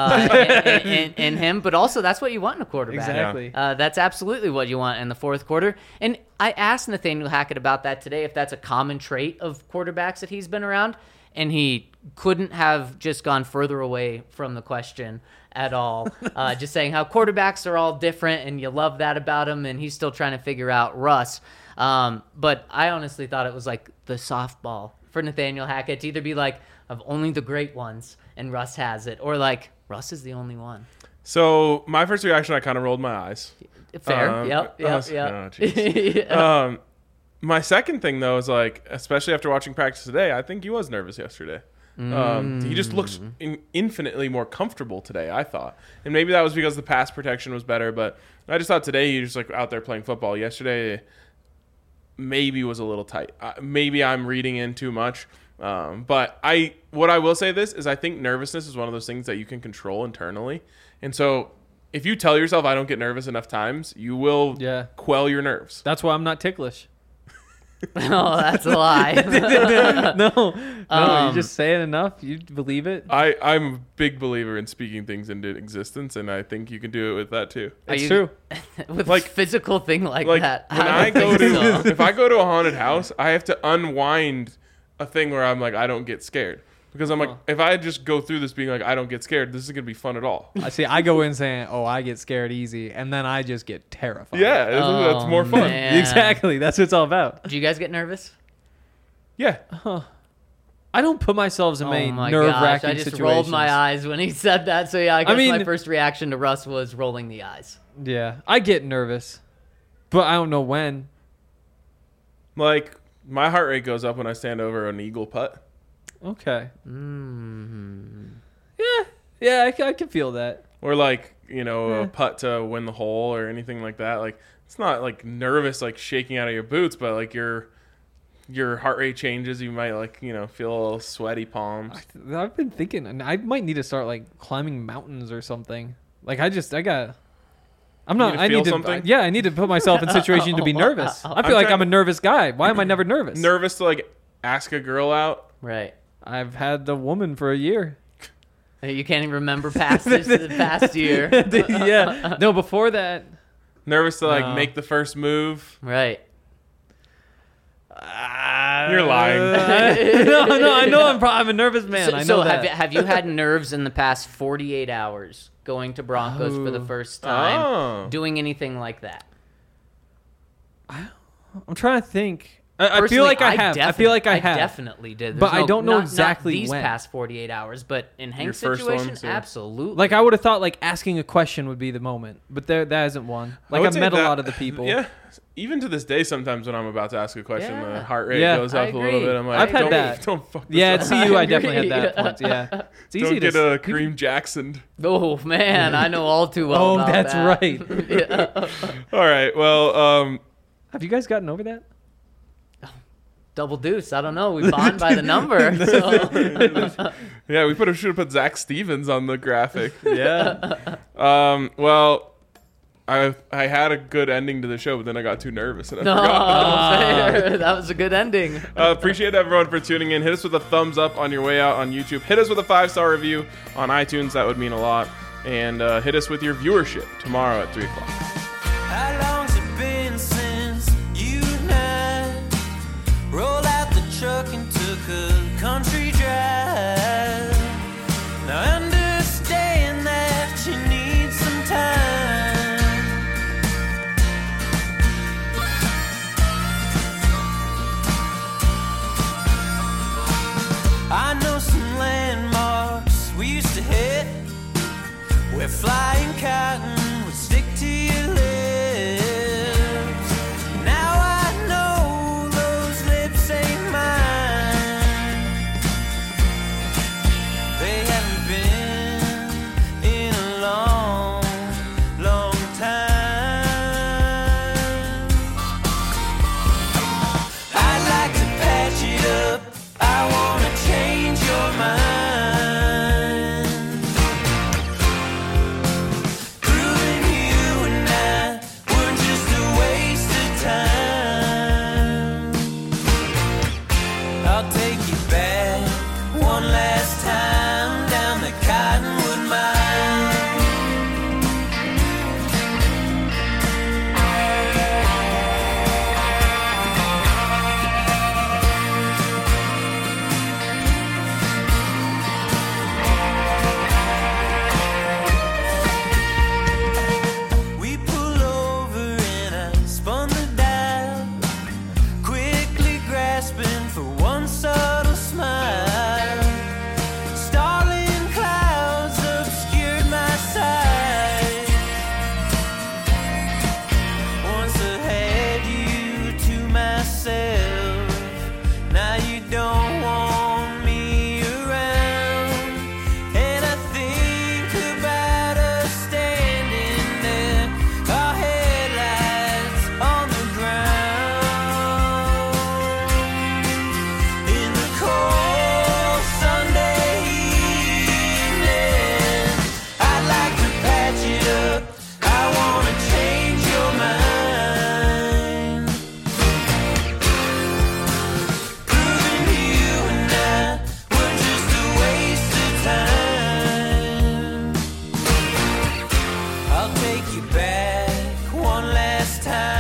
[SPEAKER 2] in him, but also that's what you want in a quarterback.
[SPEAKER 4] Exactly.
[SPEAKER 2] That's absolutely what you want in the fourth quarter. And I asked Nathaniel Hackett about that today, if that's a common trait of quarterbacks that he's been around, and he couldn't have just gone further away from the question at all. Just saying how quarterbacks are all different, and you love that about him, and he's still trying to figure out Russ. But I honestly thought it was like the softball for Nathaniel Hackett to either be like, of only the great ones, and Russ has it, or like, Russ is the only one.
[SPEAKER 1] So my first reaction, I kind of rolled my eyes.
[SPEAKER 2] Fair. Yep.
[SPEAKER 1] Oh, jeez.
[SPEAKER 2] Yeah.
[SPEAKER 1] My second thing though is like, especially after watching practice today, I think he was nervous yesterday. He just looks infinitely more comfortable today, I thought. And maybe that was because the pass protection was better, but I just thought today he was just like out there playing football. Yesterday maybe was a little tight. Maybe I'm reading in too much. But what I will say this is I think nervousness is one of those things that you can control internally. And so if you tell yourself I don't get nervous enough times, you will quell your nerves.
[SPEAKER 4] That's why I'm not ticklish.
[SPEAKER 2] Oh, that's a lie.
[SPEAKER 4] No, you just say it enough. You believe it.
[SPEAKER 1] I'm a big believer in speaking things into existence, and I think you can do it with that too.
[SPEAKER 4] It's true.
[SPEAKER 2] With
[SPEAKER 1] Like-
[SPEAKER 2] a physical thing like
[SPEAKER 1] Like
[SPEAKER 2] that.
[SPEAKER 1] when I
[SPEAKER 2] don't
[SPEAKER 1] go
[SPEAKER 2] think
[SPEAKER 1] to
[SPEAKER 2] so.
[SPEAKER 1] if I go to a haunted house, I have to unwind a thing where I'm like I don't get scared. Because I'm like, if I just go through this being like, I don't get scared, this is going to be fun at all.
[SPEAKER 4] I see. I go in saying, "Oh, I get scared easy," and then I just get terrified.
[SPEAKER 1] Yeah, that's more fun.
[SPEAKER 2] man.
[SPEAKER 4] exactly. That's what it's all about.
[SPEAKER 2] Do you guys get nervous?
[SPEAKER 1] Yeah.
[SPEAKER 4] I don't put myself in
[SPEAKER 2] Oh
[SPEAKER 4] many
[SPEAKER 2] my
[SPEAKER 4] nerve-wracking
[SPEAKER 2] gosh, I just
[SPEAKER 4] situations.
[SPEAKER 2] rolled my eyes when he said that. So yeah, I guess my
[SPEAKER 4] mean-
[SPEAKER 2] first reaction to Russ was rolling the eyes.
[SPEAKER 4] Yeah, I get nervous, but I don't know when.
[SPEAKER 1] Like, my heart rate goes up when I stand over an eagle putt.
[SPEAKER 4] Okay.
[SPEAKER 2] Mm-hmm.
[SPEAKER 4] Yeah, I can feel that.
[SPEAKER 1] Or like, a putt to win the hole or anything like that. Like, it's not like nervous, like shaking out of your boots, but like your heart rate changes. You might like, feel a little sweaty palms.
[SPEAKER 4] I've been thinking, and I might need to start like climbing mountains or something. Like I'm not.
[SPEAKER 1] to
[SPEAKER 4] I
[SPEAKER 1] feel
[SPEAKER 4] need to.
[SPEAKER 1] something?
[SPEAKER 4] Yeah, I need to put myself in situations to be nervous. I feel like I'm a nervous guy. Why am I never nervous?
[SPEAKER 1] Nervous to like ask a girl out.
[SPEAKER 2] Right.
[SPEAKER 4] I've had the woman for a year.
[SPEAKER 2] You can't even remember the past year.
[SPEAKER 4] Yeah. No, before that.
[SPEAKER 1] Nervous to like
[SPEAKER 4] No.
[SPEAKER 1] make the first move.
[SPEAKER 2] Right.
[SPEAKER 1] You're lying.
[SPEAKER 4] No, I know I'm a nervous man. I know
[SPEAKER 2] So
[SPEAKER 4] that.
[SPEAKER 2] have you had nerves in the past 48 hours going to Broncos for the first time,
[SPEAKER 1] Oh.
[SPEAKER 2] doing anything like that?
[SPEAKER 4] I'm trying to think. I feel
[SPEAKER 2] Personally,
[SPEAKER 4] like I have. I feel like I have.
[SPEAKER 2] definitely did.
[SPEAKER 4] But
[SPEAKER 2] There's
[SPEAKER 4] I don't know
[SPEAKER 2] not
[SPEAKER 4] exactly
[SPEAKER 2] these
[SPEAKER 4] when.
[SPEAKER 2] past 48 hours. But in Hank's
[SPEAKER 1] first
[SPEAKER 2] situation,
[SPEAKER 1] ones, yeah.
[SPEAKER 2] absolutely.
[SPEAKER 4] Like I would have thought like asking a question would be the moment, but that isn't one. Like
[SPEAKER 1] would
[SPEAKER 4] I've
[SPEAKER 1] say
[SPEAKER 4] met a
[SPEAKER 1] that-
[SPEAKER 4] lot of the people.
[SPEAKER 1] Yeah. Even to this day, sometimes when I'm about to ask a question,
[SPEAKER 2] Yeah.
[SPEAKER 1] the heart rate
[SPEAKER 4] Yeah.
[SPEAKER 1] goes
[SPEAKER 2] I
[SPEAKER 1] up a little
[SPEAKER 2] agree.
[SPEAKER 1] bit. I'm like,
[SPEAKER 4] I've had
[SPEAKER 1] don't,
[SPEAKER 4] that.
[SPEAKER 1] Don't fuck this
[SPEAKER 4] Yeah,
[SPEAKER 1] up.
[SPEAKER 4] at CU I
[SPEAKER 2] I
[SPEAKER 4] definitely
[SPEAKER 2] agree.
[SPEAKER 4] had that point. Yeah, it's easy
[SPEAKER 1] Don't
[SPEAKER 4] to
[SPEAKER 1] get Kareem Jackson.
[SPEAKER 2] Oh man, I know all too well.
[SPEAKER 4] Oh,
[SPEAKER 2] about
[SPEAKER 4] that's
[SPEAKER 2] that.
[SPEAKER 4] right.
[SPEAKER 2] Yeah.
[SPEAKER 1] All right. Well,
[SPEAKER 4] Have you guys gotten over that?
[SPEAKER 2] Double deuce. I don't know. We bond by the number. So.
[SPEAKER 1] yeah, we should have put Zach Stevens on the graphic.
[SPEAKER 4] Yeah.
[SPEAKER 1] Well, I had a good ending to the show, but then I got too nervous and I
[SPEAKER 2] No,
[SPEAKER 1] forgot.
[SPEAKER 2] fair. That was a good ending.
[SPEAKER 1] Appreciate everyone for tuning in. Hit us with a thumbs up on your way out on YouTube. Hit us with a 5-star review on iTunes. That would mean a lot. And hit us with your viewership tomorrow at 3 o'clock.
[SPEAKER 6] How long's it been since you and I rolled out the truck and took a country drive? Now I understand that you need some time. I know some landmarks we used to hit where flying cotton would stick to your lips. Now I know those lips ain't mine. They haven't been in a long, long time. I'd like to patch it up. I wanna change your mind. Proving you and I were just a waste of time. I'll take you back one last time down the Cottonwood Mine. We pull over and I spun the dial, quickly grasping for one subtle smile. Starling clouds obscured my sight. Once I had you to myself, now you don't want me around. And I think about us standing there, our headlights on the ground. In the cold Sunday evening, I'd like to patch it up. I wanna change your mind. Proving you and I were just a waste of time. I'll take you back one last time.